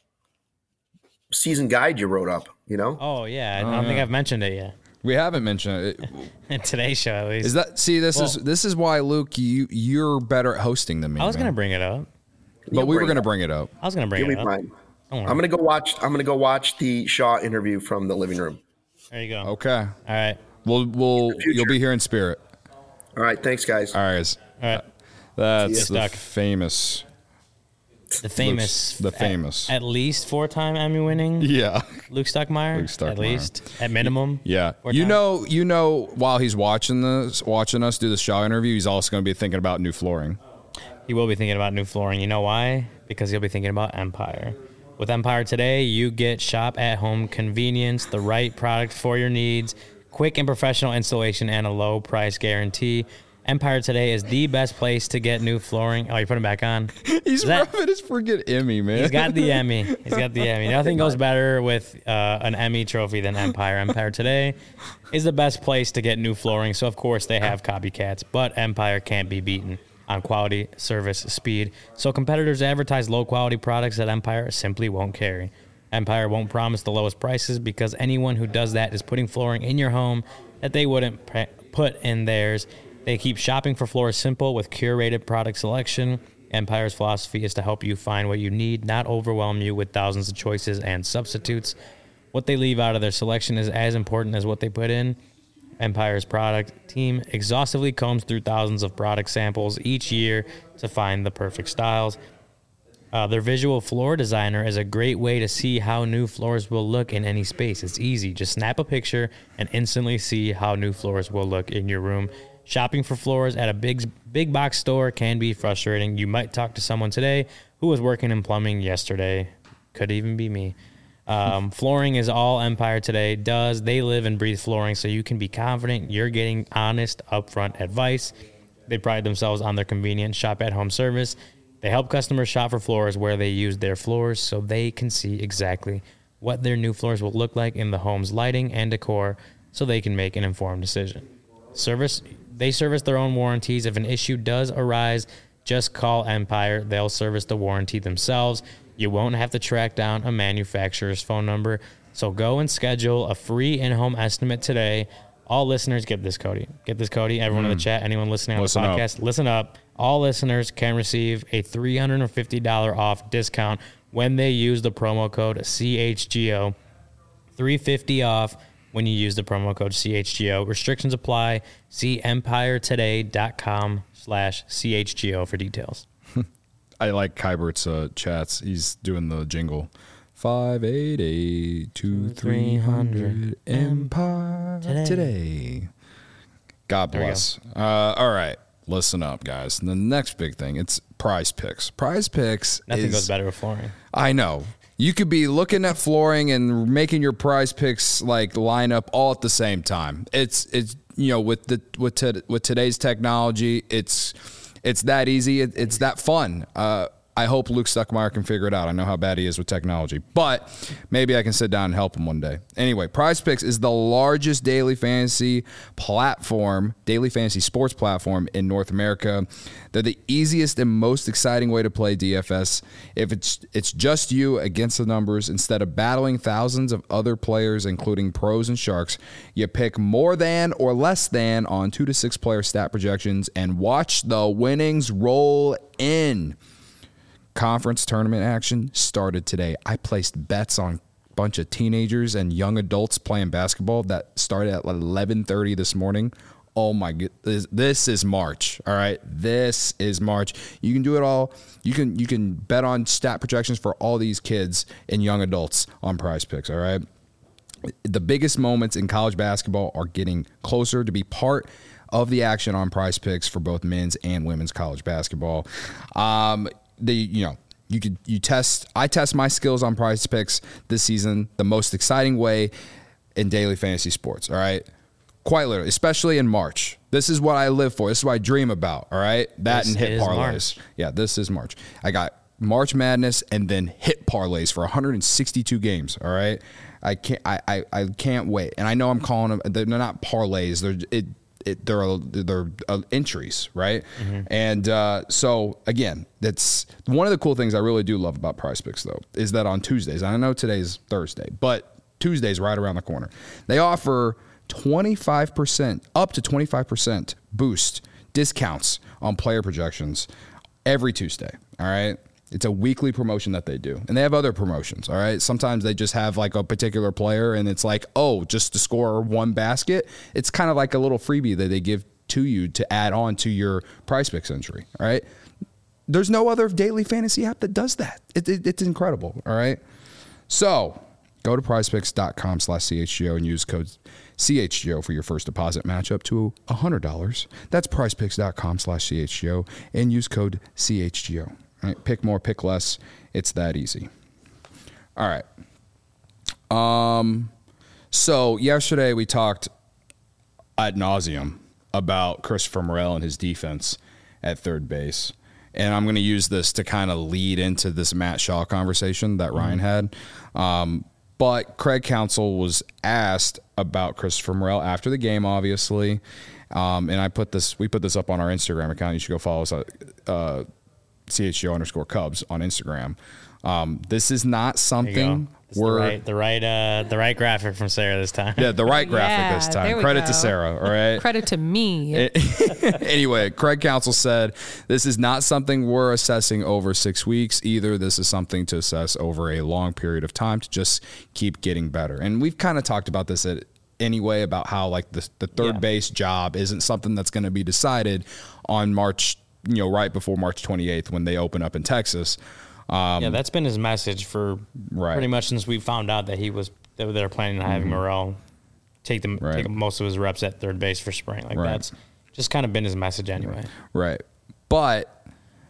Speaker 3: season guide you wrote up. You know,
Speaker 2: oh yeah, I don't think I've mentioned it yet
Speaker 1: We haven't mentioned it.
Speaker 2: in today's show at least.
Speaker 1: Is that see? This is
Speaker 2: Well-
Speaker 1: this is why Luke, you you're better at hosting than me.
Speaker 2: I was
Speaker 1: man.
Speaker 2: gonna bring it up.
Speaker 1: but we were
Speaker 3: bring
Speaker 1: gonna
Speaker 3: it.
Speaker 1: bring it up.
Speaker 2: I was gonna bring
Speaker 3: you'll
Speaker 2: it
Speaker 3: be
Speaker 2: up.
Speaker 3: fine.
Speaker 2: Don't worry.
Speaker 3: I'm gonna go watch. I'm gonna go watch the Shaw interview from the living room.
Speaker 2: There you go.
Speaker 1: Okay.
Speaker 2: All right.
Speaker 1: We'll we'll
Speaker 3: future.
Speaker 1: you'll be here in spirit.
Speaker 3: All right, thanks, guys.
Speaker 1: All right, guys.
Speaker 2: All right.
Speaker 1: That's
Speaker 2: See ya.
Speaker 1: the
Speaker 2: Stuck.
Speaker 1: famous.
Speaker 2: The famous,
Speaker 1: the
Speaker 2: at-
Speaker 1: famous.
Speaker 2: at, least four-time Emmy winning
Speaker 1: Yeah.
Speaker 2: Luke Stuckmeyer.
Speaker 1: Luke Stuckmeyer.
Speaker 2: At least, at minimum.
Speaker 1: Yeah.
Speaker 2: Four
Speaker 1: You
Speaker 2: times.
Speaker 1: know, you know, while he's watching this, watching us do the Shaw interview, he's also going to be thinking about new flooring.
Speaker 2: He will be thinking about new flooring. You know why? Because he'll be thinking about Empire. With Empire today, you get shop at home convenience, the right product for your needs, quick and professional installation, and a low price guarantee. Empire today is the best place to get new flooring. Oh, you put him back on.
Speaker 1: He's
Speaker 2: Is that-
Speaker 1: rubbing his friggin' Emmy, man.
Speaker 2: He's got the Emmy. He's got the Emmy. Nothing goes better with uh, an Emmy trophy than Empire. Empire today is the best place to get new flooring. So, of course, they have copycats, but Empire can't be beaten on quality, service, speed. So, competitors advertise low quality products that Empire simply won't carry. Empire won't promise the lowest prices because anyone who does that is putting flooring in your home that they wouldn't pre- put in theirs. They keep shopping for floors simple with curated product selection. Empire's philosophy is to help you find what you need, not overwhelm you with thousands of choices and substitutes. What they leave out of their selection is as important as what they put in. Empire's product team exhaustively combs through thousands of product samples each year to find the perfect styles. Uh, their visual floor designer is a great way to see how new floors will look in any space. It's easy. Just snap a picture and instantly see how new floors will look in your room. Shopping for floors at a big big box store can be frustrating. You might talk to someone today who was working in plumbing yesterday. Could even be me. Um, flooring is all Empire today does. They live and breathe flooring, so you can be confident you're getting honest, upfront advice. They pride themselves on their convenient shop-at-home service. They help customers shop for floors where they use their floors so they can see exactly what their new floors will look like in the home's lighting and decor so they can make an informed decision. Service, they service their own warranties. If an issue does arise, just call Empire. They'll service the warranty themselves. You won't have to track down a manufacturer's phone number. So go and schedule a free in-home estimate today. All listeners, get this, Cody. Get this, Cody. Everyone in the chat, anyone listening on
Speaker 1: Listen
Speaker 2: the
Speaker 1: up.
Speaker 2: podcast, listen up. All listeners can receive a three hundred fifty dollars off discount when they use the promo code C H G O. three hundred fifty dollars off when you use the promo code C H G O. Restrictions apply. See empiretoday.com slash CHGO for details.
Speaker 1: I like Kybert's uh, chats. He's doing the jingle. five eight eight two three hundred Empire
Speaker 2: Today.
Speaker 1: today. God
Speaker 2: we go.
Speaker 1: bless. Uh, all right. Listen up, guys. The next big thing, it's Prize Picks. Prize Picks
Speaker 2: Nothing
Speaker 1: is,
Speaker 2: goes better with flooring.
Speaker 1: I know. You could be looking at flooring and making your prize picks like line up all at the same time. It's it's you know with the with to, with today's technology, it's it's that easy. It, it's that fun. Uh, I hope Luke Stuckmeyer can figure it out. I know how bad he is with technology, but maybe I can sit down and help him one day. Anyway, Prize Picks is the largest daily fantasy platform, daily fantasy sports platform in North America. They're the easiest and most exciting way to play D F S. If it's it's just you against the numbers, instead of battling thousands of other players, including pros and sharks, you pick more than or less than on two to six player stat projections and watch the winnings roll in. Conference tournament action started today. I placed bets on a bunch of teenagers and young adults playing basketball that started at eleven thirty this morning. Oh my god, this, this is March. All right, this is March. You can do it all. You can you can bet on stat projections for all these kids and young adults on Prize Picks. All right, the biggest moments in college basketball are getting closer. To be part of the action on Prize Picks for both men's and women's college basketball. Um, The you know you could you test I test my skills on Prize Picks this season the most exciting way in daily fantasy sports. All right, quite literally, especially in March. This is what I live for. This is what I dream about. All right, that
Speaker 2: This
Speaker 1: and hit
Speaker 2: is
Speaker 1: parlays.
Speaker 2: March.
Speaker 1: Yeah, this is March. I got March Madness and then hit parlays for one hundred sixty-two games. All right, I can't I I, I can't wait. And I know I'm calling them. They're not parlays. They're it. It, they're they're uh, entries, right? Mm-hmm. And uh, so again, that's one of the cool things I really do love about Prize Picks, though, is that on Tuesdays, I know today's Thursday, but Tuesday's right around the corner. They offer twenty-five percent, up to twenty-five percent boost discounts on player projections every Tuesday. All right. It's a weekly promotion that they do. And they have other promotions, all right? Sometimes they just have like a particular player and it's like, oh, just to score one basket. It's kind of like a little freebie that they give to you to add on to your Prize Picks entry, all right? There's no other daily fantasy app that does that. It, it, it's incredible, all right? So go to prizepicks.com slash CHGO and use code C H G O for your first deposit match up to one hundred dollars. That's prizepicks.com slash CHGO and use code C H G O. Right, pick more, pick less. It's that easy. All right. Um. So yesterday we talked ad nauseum about Christopher Morel and his defense at third base, and I'm going to use this to kind of lead into this Matt Shaw conversation that Ryan had. Um, but Craig Counsell was asked about Christopher Morel after the game, obviously, um, and I put this. We put this up on our Instagram account. You should go follow us. At, uh, C H G O underscore Cubs on Instagram. Um, this is not something
Speaker 2: we're the right, the right, uh, the right graphic from Sarah this time.
Speaker 1: Yeah, the right graphic
Speaker 4: yeah,
Speaker 1: this time. Credit
Speaker 4: go.
Speaker 1: to Sarah. All right.
Speaker 4: Credit to me.
Speaker 1: Anyway, Craig Counsell said this is not something we're assessing over six weeks either. This is something to assess over a long period of time to just keep getting better. And we've kind of talked about this at anyway about how like the the third yeah. base job isn't something that's going to be decided on March. You know, right before March twenty-eighth when they open up in Texas. Um,
Speaker 2: yeah, that's been his message for
Speaker 1: right.
Speaker 2: pretty much since we found out that he was that they're planning on having mm-hmm. Morel take them right. take most of his reps at third base for spring. Like right. that's just kind of been his message anyway.
Speaker 1: Right. But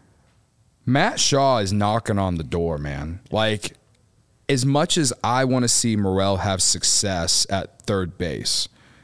Speaker 1: Matt Shaw is knocking on the door, man. Like as much as I want to see Morel have success at third base,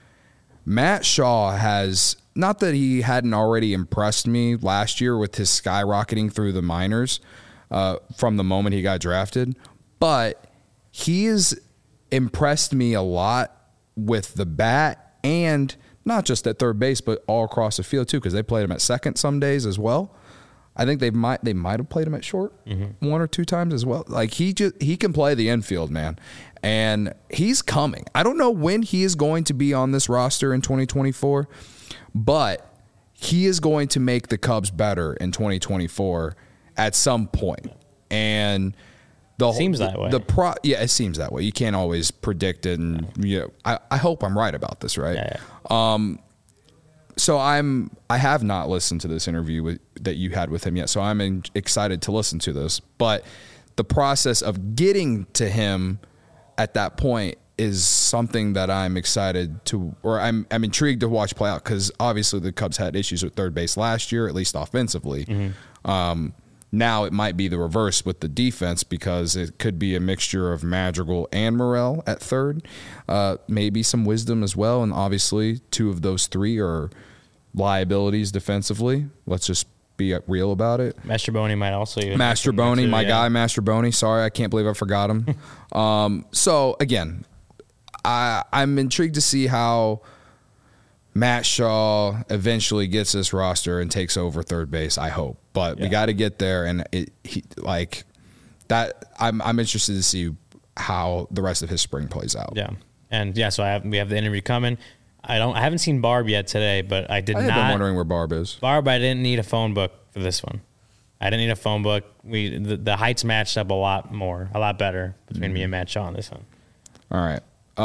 Speaker 1: Matt Shaw has. Not that he hadn't already impressed me last year with his skyrocketing through the minors uh, from the moment he got drafted, but he has impressed me a lot with the bat and not just at third base, but all across the field too, because they played him at second some days as well. I think they might they might have played him at short mm-hmm. one or two times as well. Like he just he can play the infield, man, and he's coming. I don't know when he is going to be on this roster in twenty twenty-four. But he is going to make the Cubs better in twenty twenty-four at some point. And the
Speaker 2: seems that way.
Speaker 1: The pro, yeah, it seems that way. You can't always predict it, and you know, I, I hope I'm right about this, right?
Speaker 2: Yeah, yeah.
Speaker 1: Um, so I'm I have not listened to this interview with, that you had with him yet. So I'm in, excited to listen to this. But the process of getting to him at that point is something that I'm excited to, or I'm I'm intrigued to watch play out because obviously the Cubs had issues with third base last year, at least offensively. Mm-hmm. Um, Now it might be the reverse with the defense because it could be a mixture of Madrigal and Morrell at third. Uh, maybe some Wisdom as well, and obviously two of those three are liabilities defensively. Let's just be real about it.
Speaker 2: Mastrobuoni might also.
Speaker 1: Mastrobuoni, my
Speaker 2: yeah.
Speaker 1: guy, Mastrobuoni. Sorry, I can't believe I forgot him. um, so, again, I, I'm intrigued to see how Matt Shaw eventually gets this roster and takes over third base, I hope. But yeah. we got to get there, and it he, like that. I'm I'm interested to see how the rest of his spring plays out.
Speaker 2: Yeah, and yeah, so I have, we have the interview coming. I don't. I haven't seen Barb yet today, but I did
Speaker 1: I
Speaker 2: not.
Speaker 1: I've been wondering where Barb is.
Speaker 2: Barb, I didn't need a phone book for this one. I didn't need a phone book. We the, the heights matched up a lot more, a lot better between mm-hmm. me and Matt Shaw on this one.
Speaker 1: All right.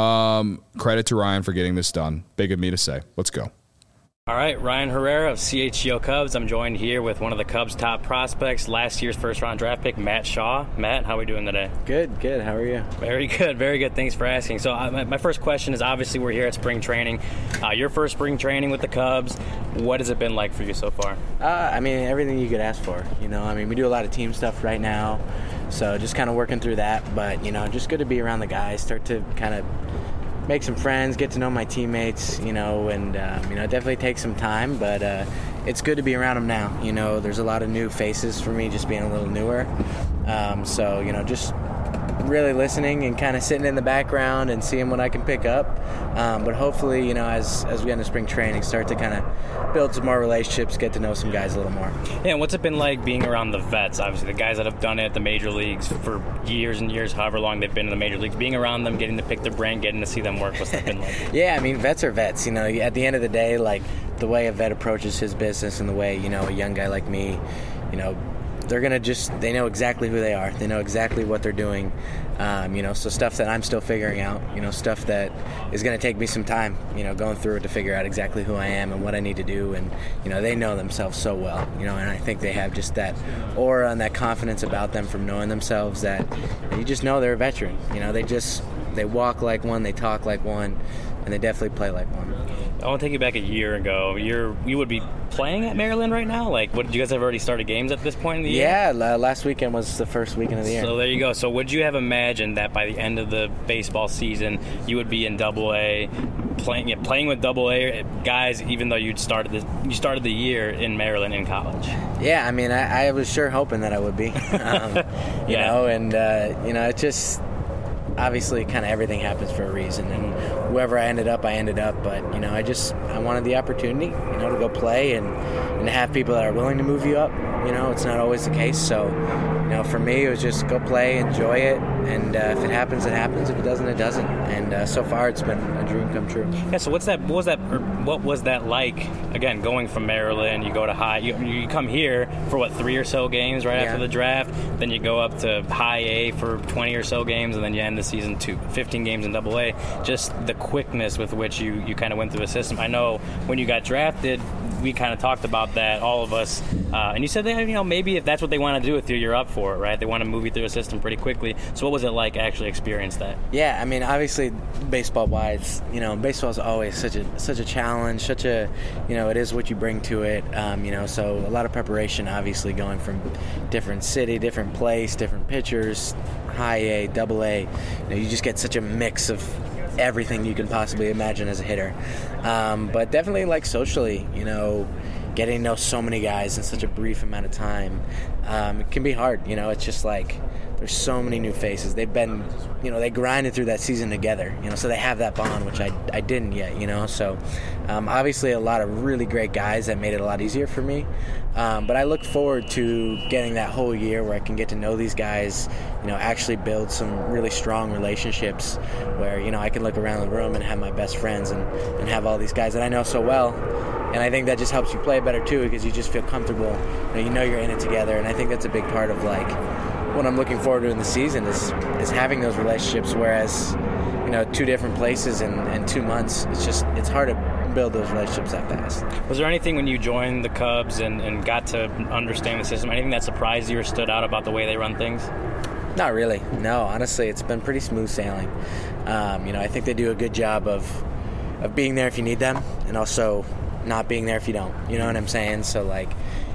Speaker 1: Um, credit to Ryan for getting this done. Big of me to say. Let's go.
Speaker 4: All right, Ryan Herrera of C H G O Cubs. I'm joined here with one of the Cubs' top prospects, last year's first-round draft pick, Matt Shaw. Matt, how are we doing today?
Speaker 5: Good, good. How are you?
Speaker 4: Very good, very good. Thanks for asking. So uh, my, my first question is, obviously we're here at spring training. Uh, your first spring training with the Cubs. What has it been like for you so far?
Speaker 5: Uh, I mean, everything you could ask for. You know, I mean, we do a lot of team stuff right now, so just kind of working through that. But, you know, just good to be around the guys, start to kind of make some friends, get to know my teammates, you know, and, um, you know, it definitely takes some time, but uh, it's good to be around them now. You know, there's a lot of new faces for me just being a little newer. Um, so, you know, just really listening and kind of sitting in the background and seeing what I can pick up. Um, but hopefully, you know, as as we get into spring training, start to kind of build some more relationships, get to know some guys a little more.
Speaker 4: Yeah, and what's it been like being around the vets? Obviously, the guys that have done it at the major leagues for years and years, however long they've been in the major leagues, being around them, getting to pick their brain, getting to see them work, what's that been like?
Speaker 5: Yeah, I mean, vets are vets. You know, at the end of the day, like, the way a vet approaches his business and the way, you know, a young guy like me, you know, they're going to just, they know exactly who they are. They know exactly what they're doing. Um, you know, so stuff that I'm still figuring out, you know, stuff that is going to take me some time, you know, going through it to figure out exactly who I am and what I need to do. And, you know, they know themselves so well, you know, and I think they have just that aura and that confidence about them from knowing themselves that you just know they're a veteran. You know, they just, they walk like one, they talk like one, and they definitely play like one.
Speaker 4: I want to take you back a year ago. You're you would be playing at Maryland right now? Like, what, did you guys have already started games at this point in the year?
Speaker 5: Yeah, last weekend was the first weekend of the year.
Speaker 4: So there you go. So would you have imagined that by the end of the baseball season, you would be in Double A, playing yeah, playing with Double A guys, even though you'd started the you started the year in Maryland in college?
Speaker 5: Yeah, I mean, I, I was sure hoping that I would be. Um, you
Speaker 4: yeah.
Speaker 5: know, and uh, you know, it just. Obviously, kind of everything happens for a reason, and whoever I ended up, I ended up. But you know, I just I wanted the opportunity, you know, to go play and and to have people that are willing to move you up. You know, it's not always the case. So, you know, for me, it was just go play, enjoy it, and uh, if it happens, it happens. If it doesn't, it doesn't. And uh, so far, it's been a dream come true.
Speaker 4: Yeah. So what's that? What was that? Or what was that like? Again, going from Maryland, you go to high. You, you come here for what three or so games right yeah. after the draft. Then you go up to high A for twenty or so games, and then you end the season two, fifteen games in Double A. Just the quickness with which you, you kind of went through a system. I know when you got drafted, we kind of talked about that, all of us, uh, and you said that, you know, maybe if that's what they want to do with you, you're up for it, right? They want to move you through a system pretty quickly. So what was it like actually experience that?
Speaker 5: Yeah, I mean, obviously, baseball-wise, you know, baseball is always such a such a challenge, such a, you know, it is what you bring to it, um, you know, so a lot of preparation, obviously, going from different city, different place, different pitchers, high A, Double A, you know, you just get such a mix of everything you can possibly imagine as a hitter. Um, but definitely, like, socially, you know, getting to know so many guys in such a brief amount of time, um, it can be hard. You know, it's just like there's so many new faces. They've been, you know, they grinded through that season together, you know, so they have that bond, which I, I didn't yet, you know. So um, obviously a lot of really great guys that made it a lot easier for me. Um, but I look forward to getting that whole year where I can get to know these guys, you know, actually build some really strong relationships where, you know, I can look around the room and have my best friends and, and have all these guys that I know so well. And I think that just helps you play better, too, because you just feel comfortable. You know, you know you're in it together. And I think that's a big part of, like, what I'm looking forward to in the season is is having those relationships, whereas, you know, two different places in, in two months, it's just, it's hard to build those relationships that fast.
Speaker 4: Was there anything when you joined the Cubs and, and got to understand the system, anything that surprised you or stood out about the way they run things?
Speaker 5: Not really. No, honestly, it's been pretty smooth sailing. Um, you know, I think they do a good job of of being there if you need them and also not being there if you don't. You know what I'm saying? So, like,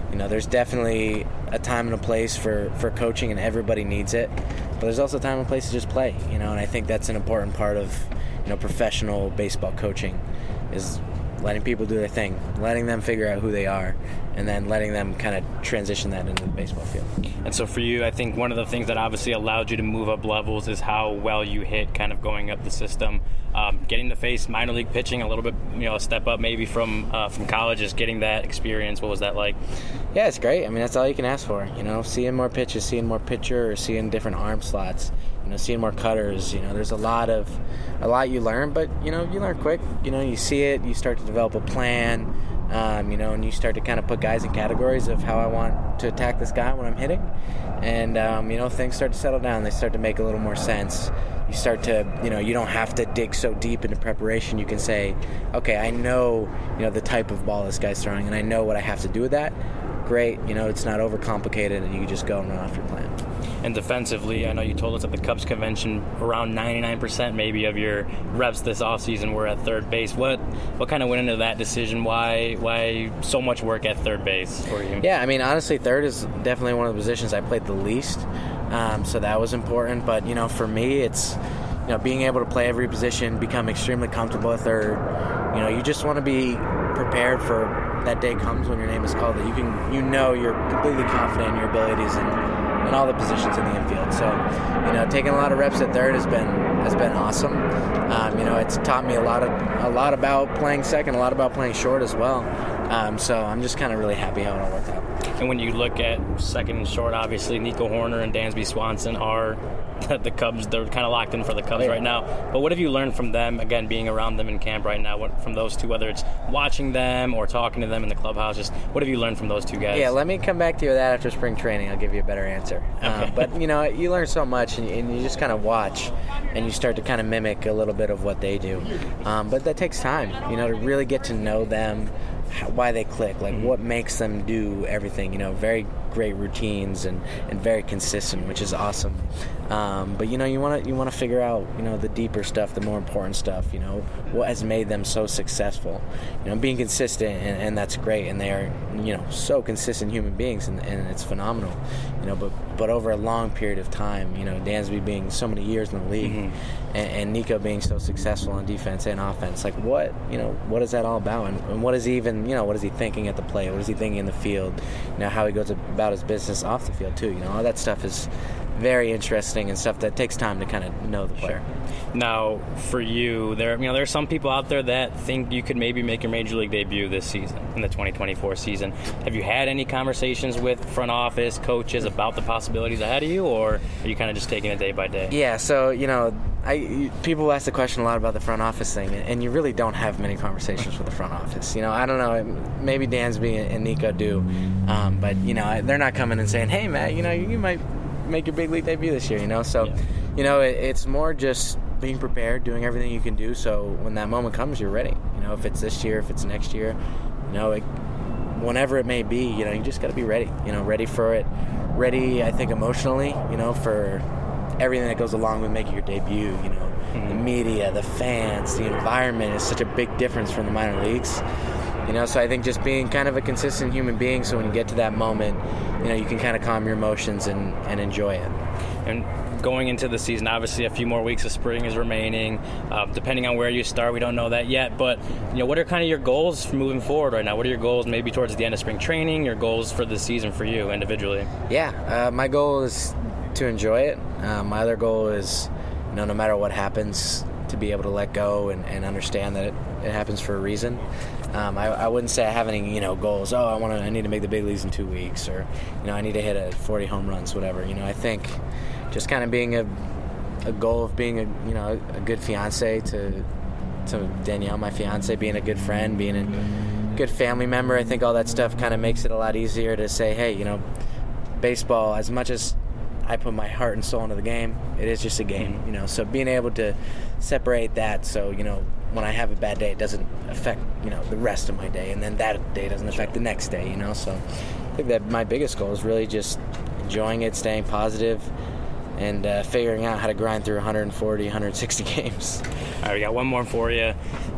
Speaker 5: you know, there's definitely a time and a place for, for coaching, and everybody needs it. But there's also a time and place to just play, you know, and I think that's an important part of, you know, professional baseball coaching, is letting people do their thing, letting them figure out who they are, and then letting them kind of transition that into the baseball field.
Speaker 4: And so for you, I think one of the things that obviously allowed you to move up levels is how well you hit kind of going up the system. Um, getting to face minor league pitching a little bit, you know, a step up maybe from uh, from college, just getting that experience. What was that like?
Speaker 5: Yeah, it's great. I mean, that's all you can ask for. You know, seeing more pitches, seeing more pitcher, or seeing different arm slots. You know, seeing more cutters. You know, there's a lot of a lot you learn, but you know, you learn quick. You know, you see it, you start to develop a plan. Um, you know, and you start to kind of put guys in categories of how I want to attack this guy when I'm hitting, and um, you know, things start to settle down. They start to make a little more sense. You start to, you know, you don't have to dig so deep into preparation. You can say, okay, I know, you know, the type of ball this guy's throwing, and I know what I have to do with that. Great, you know, it's not overcomplicated, and you can just go and run off your plan.
Speaker 4: And defensively, I know you told us at the Cubs convention around ninety-nine percent maybe of your reps this offseason were at third base. What what kind of went into that decision? Why why so much work at third base for you?
Speaker 5: Yeah, I mean, honestly, third is definitely one of the positions I played the least, um, so that was important. But, you know, for me, it's, you know, being able to play every position, become extremely comfortable at third. You know, you just want to be prepared for that day comes when your name is called, that you can, you know, you're completely confident in your abilities and in all the positions in the infield. So, you know, taking a lot of reps at third has been has been awesome. Um, you know, it's taught me a lot of a lot about playing second, a lot about playing short as well. Um, so I'm just kind of really happy how it all worked out.
Speaker 4: And when you look at second and short, obviously Nico Horner and Dansby Swanson are the Cubs. They're kind of locked in for the Cubs
Speaker 5: yeah.
Speaker 4: right now. But what have you learned from them, again, being around them in camp right now, what, from those two, whether it's watching them or talking to them in the clubhouse? Just what have you learned from those two guys?
Speaker 5: Yeah, let me come back to you with that after spring training. I'll give you a better answer.
Speaker 4: Okay.
Speaker 5: Um, but, you know, you learn so much, and, and you just kind of watch, and you start to kind of mimic a little bit of what they do. Um, but that takes time, you know, to really get to know them, how, why they click, like what makes them do everything. You know, very great routines and, and very consistent, which is awesome. Um, but you know, you want to you want to figure out, you know, the deeper stuff, the more important stuff. You know, what has made them so successful. You know, being consistent, and, and that's great. And they are, you know, so consistent human beings, and, and it's phenomenal. You know, but but over a long period of time, you know, Dansby being so many years in the league, mm-hmm. and, and Nico being so successful on defense and offense, like what, you know, what is that all about? And, and what is he even, you know, what is he thinking at the plate? What is he thinking in the field? You know, how he goes about his business off the field too. You know, all that stuff is very interesting and stuff that takes time to kind of know the player.
Speaker 4: Sure. Now, for you, there, you know, there are some people out there that think you could maybe make your major league debut this season, in the twenty twenty-four season. Have you had any conversations with front office coaches about the possibilities ahead of you, or are you kind of just taking it day by day?
Speaker 5: Yeah. So, you know, I people ask the question a lot about the front office thing, and you really don't have many conversations with the front office. You know, I don't know, maybe Dansby and Nico do, um, but you know, they're not coming and saying, "Hey, Matt, you know, you might make your big league debut this year." You know, so, yeah. you know, it, it's more just being prepared, doing everything you can do, so when that moment comes, you're ready. You know, if it's this year, if it's next year, you know, it, whenever it may be, you know, you just got to be ready. You know, ready for it. Ready, I think, emotionally. You know, for everything that goes along with making your debut. You know, mm-hmm. the media, the fans, the environment is such a big difference from the minor leagues. You know, so I think just being kind of a consistent human being, so when you get to that moment, you know, you can kind of calm your emotions and, and enjoy it.
Speaker 4: And going into the season, obviously a few more weeks of spring is remaining. Uh, depending on where you start, we don't know that yet. But, you know, what are kind of your goals for moving forward right now? What are your goals maybe towards the end of spring training, your goals for the season for you individually?
Speaker 5: Yeah, uh, my goal is to enjoy it. Uh, my other goal is, you know, no matter what happens, to be able to let go and, and understand that it, it happens for a reason. Um, I, I wouldn't say I have any, you know, goals. Oh, I want to. I need to make the big leagues in two weeks, or, you know, I need to hit a forty home runs, whatever. You know, I think just kind of being a, a goal of being a, you know, a good fiance to, to Danielle, my fiance, being a good friend, being a good family member. I think all that stuff kind of makes it a lot easier to say, hey, you know, baseball, as much as I put my heart and soul into the game, it is just a game, you know. So being able to separate that, so, you know, when I have a bad day, it doesn't affect, you know, the rest of my day, and then that day doesn't affect the next day, you know. So I think that my biggest goal is really just enjoying it, staying positive, and uh, figuring out how to grind through one forty, one sixty games.
Speaker 4: All right, we got one more for you.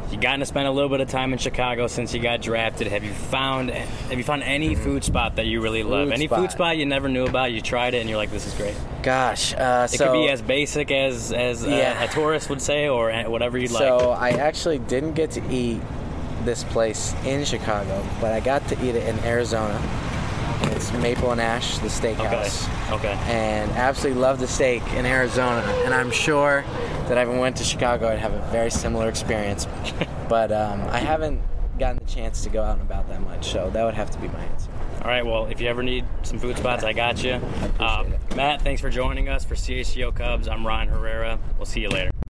Speaker 4: You gotten to spend a little bit of time in Chicago since you got drafted. Have you found Have you found any food spot that you really love?
Speaker 5: Food
Speaker 4: any
Speaker 5: spot.
Speaker 4: food spot you never knew about? You tried it and you're like, this is great.
Speaker 5: Gosh, uh,
Speaker 4: It
Speaker 5: so
Speaker 4: could be as basic as as
Speaker 5: Yeah.
Speaker 4: a, a tourist would say, or whatever you'd
Speaker 5: so
Speaker 4: like.
Speaker 5: I actually didn't get to eat this place in Chicago, but I got to eat it in Arizona. It's Maple and Ash, the steakhouse.
Speaker 4: Okay. Okay.
Speaker 5: And absolutely love the steak in Arizona. And I'm sure that if I went to Chicago, I'd have a very similar experience. But um, I haven't gotten the chance to go out and about that much, so that would have to be my answer.
Speaker 4: All right. Well, if you ever need some food spots, I got you.
Speaker 5: appreciate
Speaker 4: Um,
Speaker 5: it.
Speaker 4: Matt, thanks for joining us for C H G O Cubs. I'm Ryan Herrera. We'll see you later.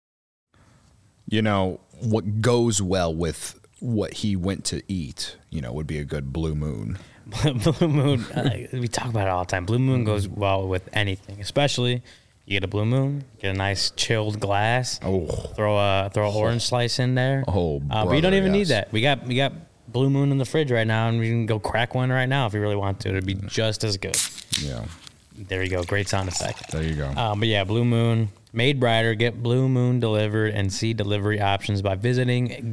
Speaker 1: You know, what goes well with what he went to eat, you know, would be a good Blue Moon.
Speaker 2: Blue Moon, uh, we talk about it all the time. Blue Moon goes well with anything, especially you get a Blue Moon, get a nice chilled glass,
Speaker 1: Oh.
Speaker 2: throw a throw an orange slice in there.
Speaker 1: Oh,
Speaker 2: uh, but you don't
Speaker 1: brother,
Speaker 2: even need
Speaker 1: yes.
Speaker 2: that. We got we got Blue Moon in the fridge right now, and we can go crack one right now if you really want to. It'd be just as good.
Speaker 1: Yeah,
Speaker 2: There you go, great sound effect.
Speaker 1: there you go.
Speaker 2: Um, but yeah, Blue Moon, made brighter. Get Blue Moon delivered and see delivery options by visiting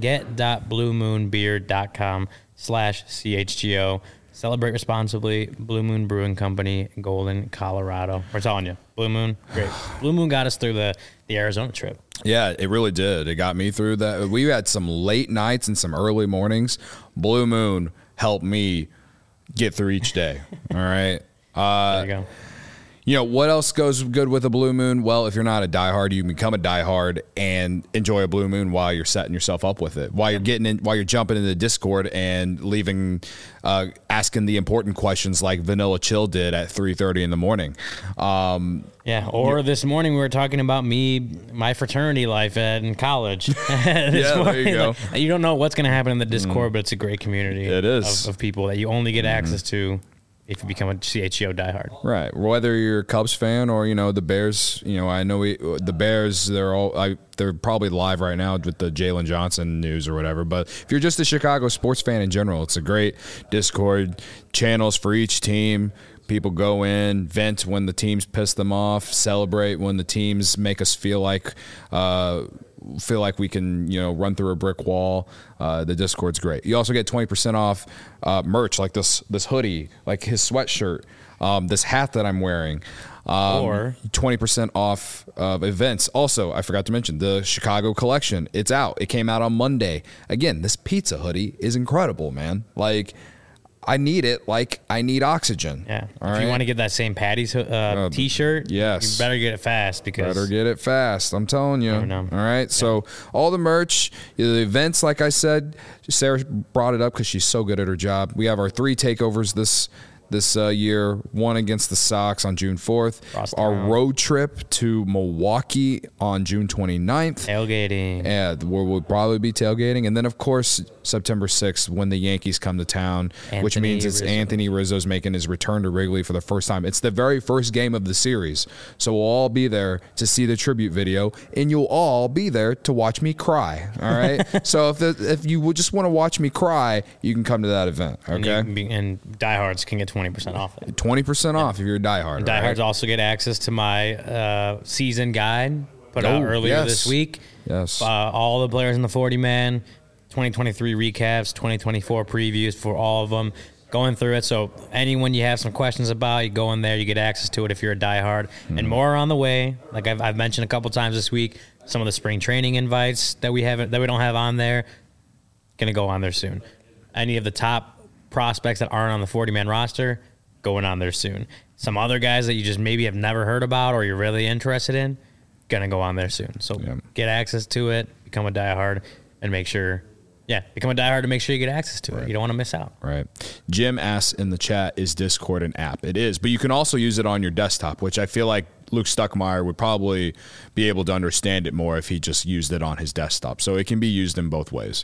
Speaker 2: get.bluemoonbeer.com slash CHGO. Celebrate responsibly. Blue Moon Brewing Company, Golden, Colorado. We're telling you, Blue Moon, great. Blue Moon got us through the, the Arizona trip.
Speaker 1: Yeah, it really did. It got me through that. We had some late nights and some early mornings. Blue Moon helped me get through each day. All right. Uh,
Speaker 2: There you go.
Speaker 1: You know, what else goes good with a Blue Moon? Well, if you're not a diehard, you can become a diehard and enjoy a Blue Moon while you're setting yourself up with it. While you're getting in, while you're jumping into the Discord and leaving, uh, asking the important questions like Vanilla Chill did at three thirty in the morning. Um,
Speaker 2: Yeah, or this morning we were talking about me, my fraternity life at, in college.
Speaker 1: Yeah, there you go.
Speaker 2: Like, you don't know what's going to happen in the Discord, but it's a great community
Speaker 1: It is.
Speaker 2: Of, of people that you only get access to if you become a C H G O diehard.
Speaker 1: Right. Whether you're a Cubs fan or, you know, the Bears, you know, I know we, the Bears, they're all, I, they're probably live right now with the Jalen Johnson news or whatever. But if you're just a Chicago sports fan in general, it's a great Discord, channels for each team. People go in, vent when the teams piss them off, celebrate when the teams make us feel like, uh, feel like we can, you know, run through a brick wall. Uh, the Discord's great. You also get twenty percent off uh, merch, like this this hoodie, like his sweatshirt, um, this hat that I'm wearing. Um,
Speaker 2: Or-
Speaker 1: twenty percent off of events. Also, I forgot to mention the Chicago collection. It's out. It came out on Monday. Again, this pizza hoodie is incredible, man. Like, I need it like I need oxygen.
Speaker 2: Yeah.
Speaker 1: All
Speaker 2: if you
Speaker 1: right?
Speaker 2: want to get that Saint Patty's uh, T-shirt,
Speaker 1: yes.
Speaker 2: you better get it fast because
Speaker 1: Better get it fast. I'm telling you.
Speaker 2: Never know.
Speaker 1: All right. So all the merch, the events, like I said, Sarah brought it up because she's so good at her job. We have our three takeovers this this uh, year. One against the Sox on June fourth.
Speaker 2: Frost
Speaker 1: Our
Speaker 2: Town.
Speaker 1: road trip to Milwaukee on June twenty-ninth.
Speaker 2: tailgating.
Speaker 1: Yeah, where we'll probably be tailgating. And then, of course, September sixth, when the Yankees come to town, which
Speaker 2: Anthony
Speaker 1: means it's
Speaker 2: Rizzo.
Speaker 1: Anthony Rizzo's making his return to Wrigley for the first time. It's the very first game of the series. So we'll all be there to see the tribute video, and you'll all be there to watch me cry. All right? So if the, if you would just want to watch me cry, you can come to that event.
Speaker 2: And, you
Speaker 1: Okay?
Speaker 2: can be, and diehards can get twenty percent off it.
Speaker 1: twenty percent off if you're a diehard.
Speaker 2: Diehards
Speaker 1: right?
Speaker 2: also get access to my uh, season guide put out
Speaker 1: Oh,
Speaker 2: earlier
Speaker 1: yes.
Speaker 2: this week.
Speaker 1: Yes.
Speaker 2: Uh, all the players in the forty man, twenty twenty-three recaps, twenty twenty-four previews for all of them. Going through it. So anyone you have some questions about, you go in there, you get access to it if you're a diehard.
Speaker 1: Mm-hmm.
Speaker 2: And more on the way. Like I've, I've mentioned a couple times this week, some of the spring training invites that we haven't that we don't have on there, gonna go on there soon. Any of the top prospects that aren't on the forty man roster, going on there soon. Some other guys that you just maybe have never heard about or you're really interested in, gonna go on there soon. So
Speaker 1: Yeah.
Speaker 2: get access to it, become a diehard, and make sure, yeah, become a diehard to make sure you get access to it. You don't want to miss out.
Speaker 1: Right. Jim asks in the chat, is Discord an app? It is, but you can also use it on your desktop, which I feel like Luke Stuckmeyer would probably be able to understand it more if he just used it on his desktop. So it can be used in both ways.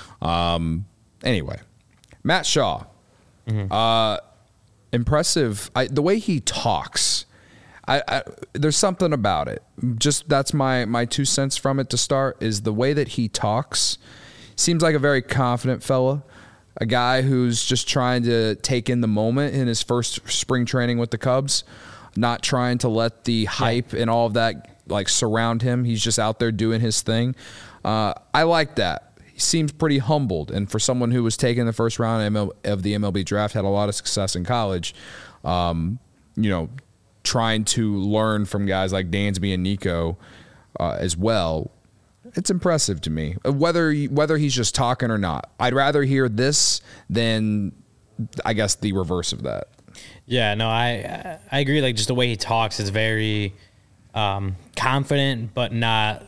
Speaker 1: Um, anyway, Matt Shaw.
Speaker 2: Mm-hmm.
Speaker 1: Uh, impressive. I, the way he talks, I, I, there's something about it. Just that's my, my two cents from it to start is the way that he talks. Seems like a very confident fella, a guy who's just trying to take in the moment in his first spring training with the Cubs, not trying to let the hype and all of that like surround him. He's just out there doing his thing. Uh, I like that. he seems pretty humbled. And for someone who was taken the first round of the M L B draft, had a lot of success in college, um, you know, trying to learn from guys like Dansby and Nico uh, as well, it's impressive to me. Whether whether he's just talking or not, I'd rather hear this than, I guess, the reverse of that.
Speaker 2: Yeah, no, I I agree. Like, just the way he talks is very um, confident, but not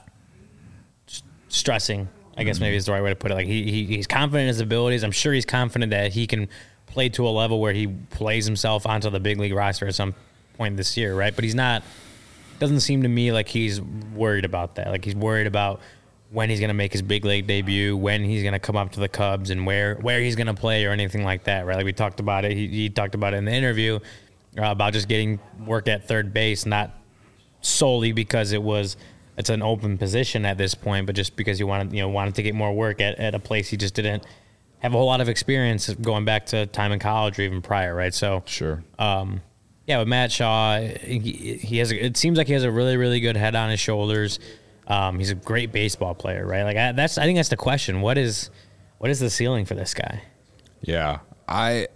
Speaker 2: st- stressing. I guess mm-hmm. maybe is the right way to put it. Like, he, he he's confident in his abilities. I'm sure he's confident that he can play to a level where he plays himself onto the big league roster at some point this year, right? But he's not. Doesn't seem to me like he's worried about that. Like, he's worried about when he's going to make his big league debut, when he's going to come up to the Cubs, and where where he's going to play or anything like that, right? Like, we talked about it. He, he talked about it in the interview uh, about just getting work at third base, not solely because it was it's an open position at this point, but just because he wanted you know wanted to get more work at, at a place he just didn't have a whole lot of experience going back to time in college or even prior, right? So
Speaker 1: sure.
Speaker 2: Um, Yeah, with Matt Shaw, he, he has. A, it seems like he has a really, really good head on his shoulders. Um, he's a great baseball player, right? Like I, that's. I think that's the question. What is, what is the ceiling for this guy?
Speaker 1: Yeah, I,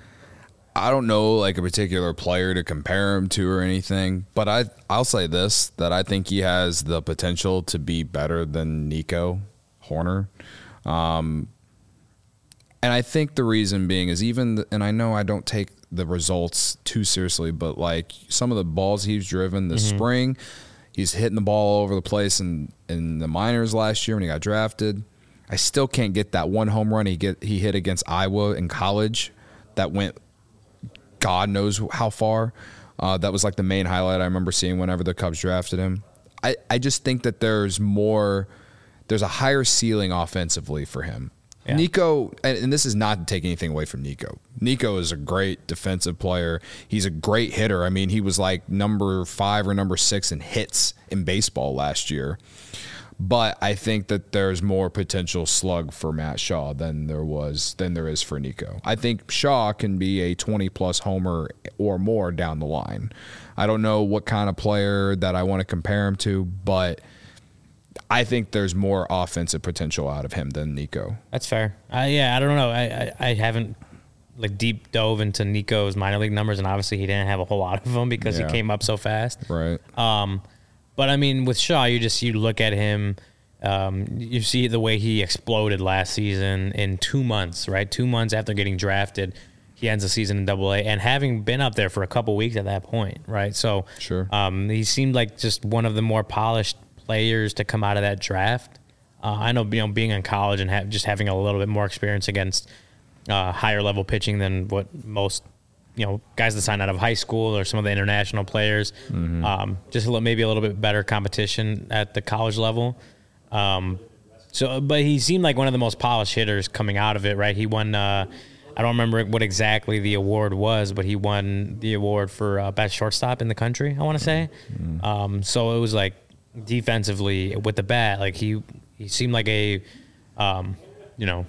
Speaker 1: I don't know like a particular player to compare him to or anything, but I, I'll say this: that I think he has the potential to be better than Nico Hoerner. Um, and I think the reason being is even, the, and I know I don't take the results too seriously, but like some of the balls he's driven this mm-hmm. spring, he's hitting the ball all over the place in, in the minors last year when he got drafted. I still can't get that one home run he get he hit against Iowa in college that went God knows how far. Uh, that was like the main highlight I remember seeing whenever the Cubs drafted him. I, I just think that there's more, there's a higher ceiling offensively for him. Yeah. Nico, and, and this is not to take anything away from Nico. Nico is a great defensive player. He's a great hitter. I mean, he was like number five or number six in hits in baseball last year. But I think that there's more potential slug for Matt Shaw than there was than there is for Nico. I think Shaw can be a twenty plus homer or more down the line. I don't know what kind of player that I want to compare him to, but I think there's more offensive potential out of him than Nico.
Speaker 2: That's fair. Uh, yeah, I don't know. I, I, I haven't like deep dove into Nico's minor league numbers, and obviously he didn't have a whole lot of them because yeah. he came up so fast.
Speaker 1: Right.
Speaker 2: Um, but I mean, with Shaw, you just you look at him, um, you see the way he exploded last season in two months. Right, two months after getting drafted, he ends the season in Double A, and having been up there for a couple weeks at that point. Right, so
Speaker 1: sure.
Speaker 2: Um, he seemed like just one of the more polished players to come out of that draft. Uh, I know, you know, being in college and ha- just having a little bit more experience against uh, higher level pitching than what most, you know, guys that sign out of high school or some of the international players. Mm-hmm. Um, just a little, maybe a little bit better competition at the college level. Um, so, but he seemed like one of the most polished hitters coming out of it. Right, he won. Uh, I don't remember what exactly the award was, but he won the award for uh, best shortstop in the country, I want to say. Mm-hmm. Um, so it was like, defensively with the bat, like he he seemed like a um you know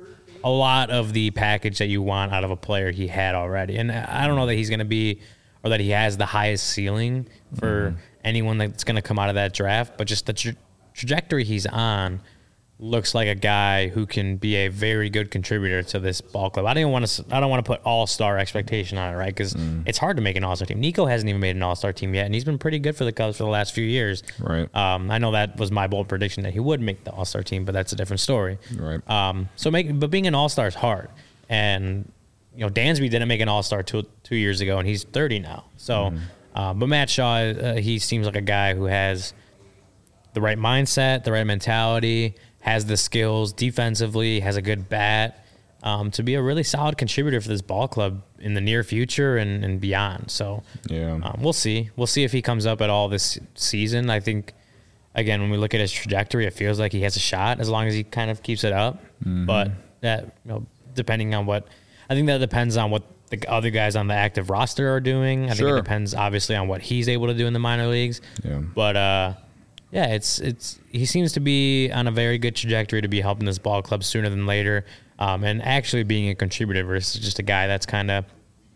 Speaker 2: a lot of the package that you want out of a player he had already. And I don't know that he's going to be, or that he has the highest ceiling for mm-hmm. anyone that's going to come out of that draft, but just the tra- trajectory he's on looks like a guy who can be a very good contributor to this ball club. I don't even want to. I don't want to put all-star expectation on it, right? Because mm. it's hard to make an all-star team. Nico hasn't even made an all-star team yet, and he's been pretty good for the Cubs for the last few years.
Speaker 1: Right.
Speaker 2: Um, I know that was my bold prediction that he would make the all-star team, but that's a different story.
Speaker 1: Right.
Speaker 2: Um. So make, but being an all-star is hard, and you know Dansby didn't make an all-star two two years ago, and he's thirty now. So, mm. uh, but Matt Shaw, uh, he seems like a guy who has the right mindset, the right mentality, has the skills defensively, has a good bat, um, to be a really solid contributor for this ball club in the near future and, and beyond. So
Speaker 1: yeah,
Speaker 2: um, we'll see. We'll see if he comes up at all this season. I think, again, when we look at his trajectory, it feels like he has a shot as long as he kind of keeps it up. Mm-hmm. But that, you know, depending on what, I think that depends on what the other guys on the active roster are doing. I
Speaker 1: sure.
Speaker 2: think it depends, obviously, on what he's able to do in the minor leagues.
Speaker 1: Yeah.
Speaker 2: But, uh, yeah, it's it's he seems to be on a very good trajectory to be helping this ball club sooner than later, um, and actually being a contributor versus just a guy that's kind of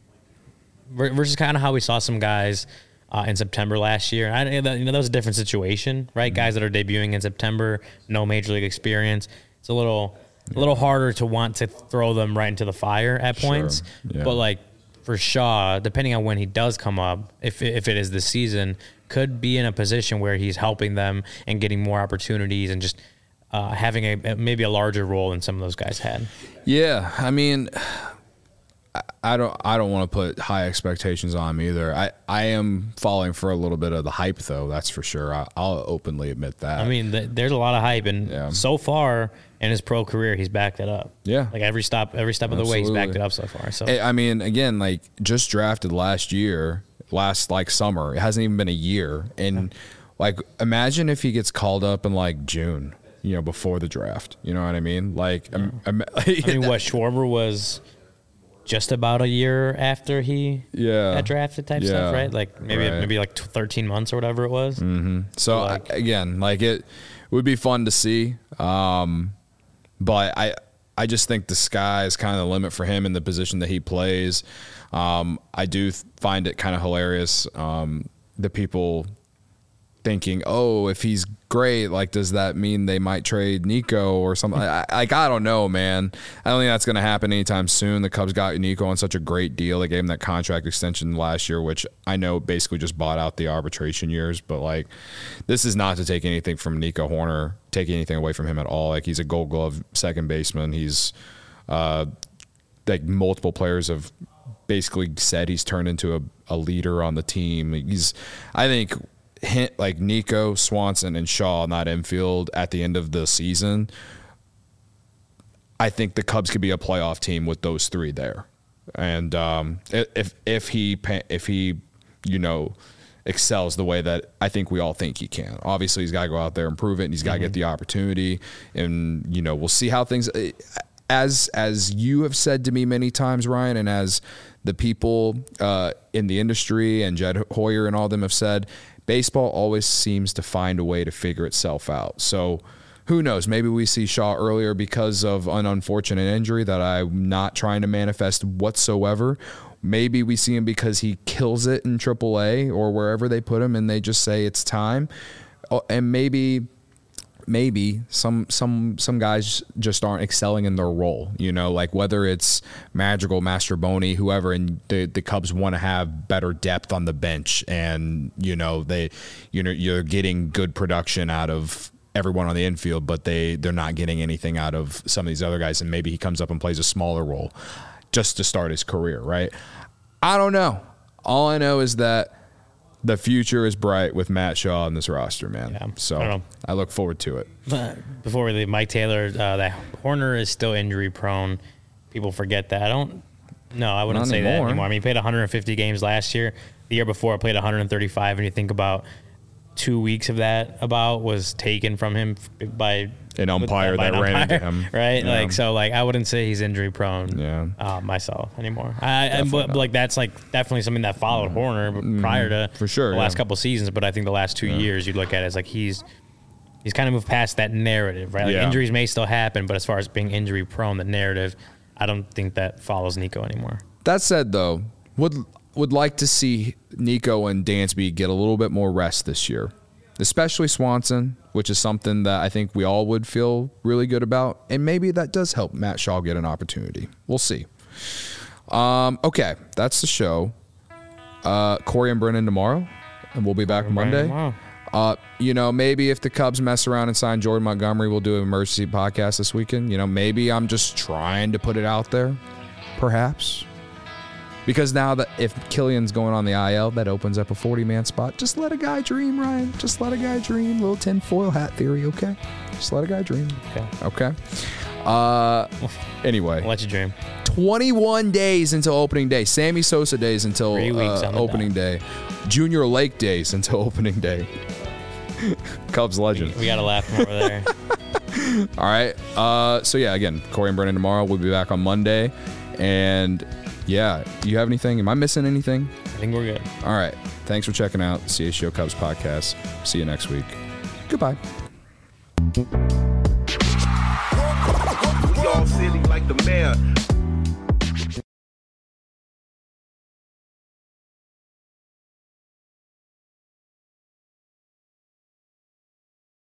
Speaker 2: versus kind of how we saw some guys uh, in September last year. I, you know, that was a different situation, right? Mm-hmm. Guys that are debuting in September, no major league experience. it's a little yeah. a little harder to want to throw them right into the fire at points.
Speaker 1: Sure. Yeah.
Speaker 2: But like for Shaw, depending on when he does come up, if if it is this season, could be in a position where he's helping them and getting more opportunities and just uh, having a maybe a larger role than some of those guys had.
Speaker 1: Yeah, I mean, I don't I don't want to put high expectations on him either. I, I am falling for a little bit of the hype, though. That's for sure. I, I'll openly admit that.
Speaker 2: I mean, th- there's a lot of hype, and
Speaker 1: yeah.
Speaker 2: so far in his pro career, he's backed it up.
Speaker 1: Yeah,
Speaker 2: like every stop, every step of the
Speaker 1: Absolutely.
Speaker 2: way, he's backed it up so far. So
Speaker 1: I mean, again, like just drafted last year, last like summer. It hasn't even been a year, and like imagine if he gets called up in like June, you know, before the draft. You know what I mean? Like, yeah. um, um,
Speaker 2: I mean, what Schwarber was. Just about a year after he
Speaker 1: yeah.
Speaker 2: got drafted type
Speaker 1: yeah.
Speaker 2: stuff, right? Like maybe
Speaker 1: right.
Speaker 2: maybe like thirteen months or whatever it was.
Speaker 1: Mm-hmm. So,
Speaker 2: like,
Speaker 1: I, again, like it would be fun to see, um, but I I just think the sky is kind of the limit for him in the position that he plays. Um, I do find it kind of hilarious um, the people thinking, oh, if he's great, like, does that mean they might trade Nico or something? I, like, I don't know, man. I don't think that's going to happen anytime soon. The Cubs got Nico on such a great deal. They gave him that contract extension last year, which I know basically just bought out the arbitration years. But, like, this is not to take anything from Nico Hoerner, take anything away from him at all. Like, he's a Gold Glove second baseman. He's, uh, like, multiple players have basically said he's turned into a, a leader on the team. He's, I think, hint like Nico, Swanson, and Shaw in that infield at the end of the season, I think the Cubs could be a playoff team with those three there. And um, if if he if he you know excels the way that I think we all think he can, obviously he's got to go out there and prove it, and he's got to mm-hmm. get the opportunity. And you know we'll see how things. As as you have said to me many times, Ryan, and as the people uh, in the industry and Jed Hoyer and all them have said, baseball always seems to find a way to figure itself out. So who knows? Maybe we see Shaw earlier because of an unfortunate injury that I'm not trying to manifest whatsoever. Maybe we see him because he kills it in triple A or wherever they put him and they just say it's time. And maybe maybe some some some guys just aren't excelling in their role, you know, like whether it's Madrigal, Mastroboni, whoever, and the, the Cubs want to have better depth on the bench, and you know they, you know, you're getting good production out of everyone on the infield, but they they're not getting anything out of some of these other guys, and maybe he comes up and plays a smaller role just to start his career, right? I don't know. All I know is that the future is bright with Matt Shaw on this roster, man. Yeah, so I, I look forward to it.
Speaker 2: But before we leave, Mike Taylor, uh, that Hoerner is still injury prone. People forget that. I don't. No, I wouldn't
Speaker 1: Not
Speaker 2: say
Speaker 1: anymore.
Speaker 2: that anymore. I mean, he played one hundred fifty games last year. The year before, I played one hundred thirty-five. And you think about two weeks of that, about was taken from him by
Speaker 1: an umpire
Speaker 2: with,
Speaker 1: that
Speaker 2: an
Speaker 1: ran
Speaker 2: umpire,
Speaker 1: into him,
Speaker 2: right?
Speaker 1: Yeah.
Speaker 2: Like so, like I wouldn't say he's injury prone.
Speaker 1: Yeah,
Speaker 2: uh, myself anymore. I, and, but, but like that's like definitely something that followed Hoerner mm, prior to
Speaker 1: for sure
Speaker 2: the
Speaker 1: yeah.
Speaker 2: last couple of seasons. But I think the last two yeah. years, you'd look at it as like he's he's kind of moved past that narrative, right? Like
Speaker 1: yeah.
Speaker 2: injuries may still happen, but as far as being injury prone, the narrative, I don't think that follows Nico anymore.
Speaker 1: That said, though, would would like to see Nico and Dansby get a little bit more rest this year, especially Swanson, which is something that I think we all would feel really good about. And maybe that does help Matt Shaw get an opportunity. We'll see. Um, okay, that's the show. Uh, Corey and Brennan tomorrow, and we'll be back Monday. Uh, you know, maybe if the Cubs mess around and sign Jordan Montgomery, we'll do an emergency podcast this weekend. You know, maybe I'm just trying to put it out there, perhaps. Because now that if Killian's going on the I L, that opens up a forty-man spot. Just let a guy dream, Ryan. Just let a guy dream. Little tinfoil hat theory, okay? Just let a guy dream.
Speaker 2: Okay.
Speaker 1: Okay. Uh, anyway.
Speaker 2: I'll let you dream.
Speaker 1: twenty-one days until opening day. Sammy Sosa days until uh, opening day. Junior Lake days until opening day. Cubs legend.
Speaker 2: We, we got to laugh from over there.
Speaker 1: All right. Uh, so, yeah, again, Corey and Brennan tomorrow. We'll be back on Monday. And... yeah, do you have anything? Am I missing anything?
Speaker 2: I think we're good. All
Speaker 1: right. Thanks for checking out C H G O Cubs podcast. See you next week. Goodbye.
Speaker 6: We all silly like the mayor.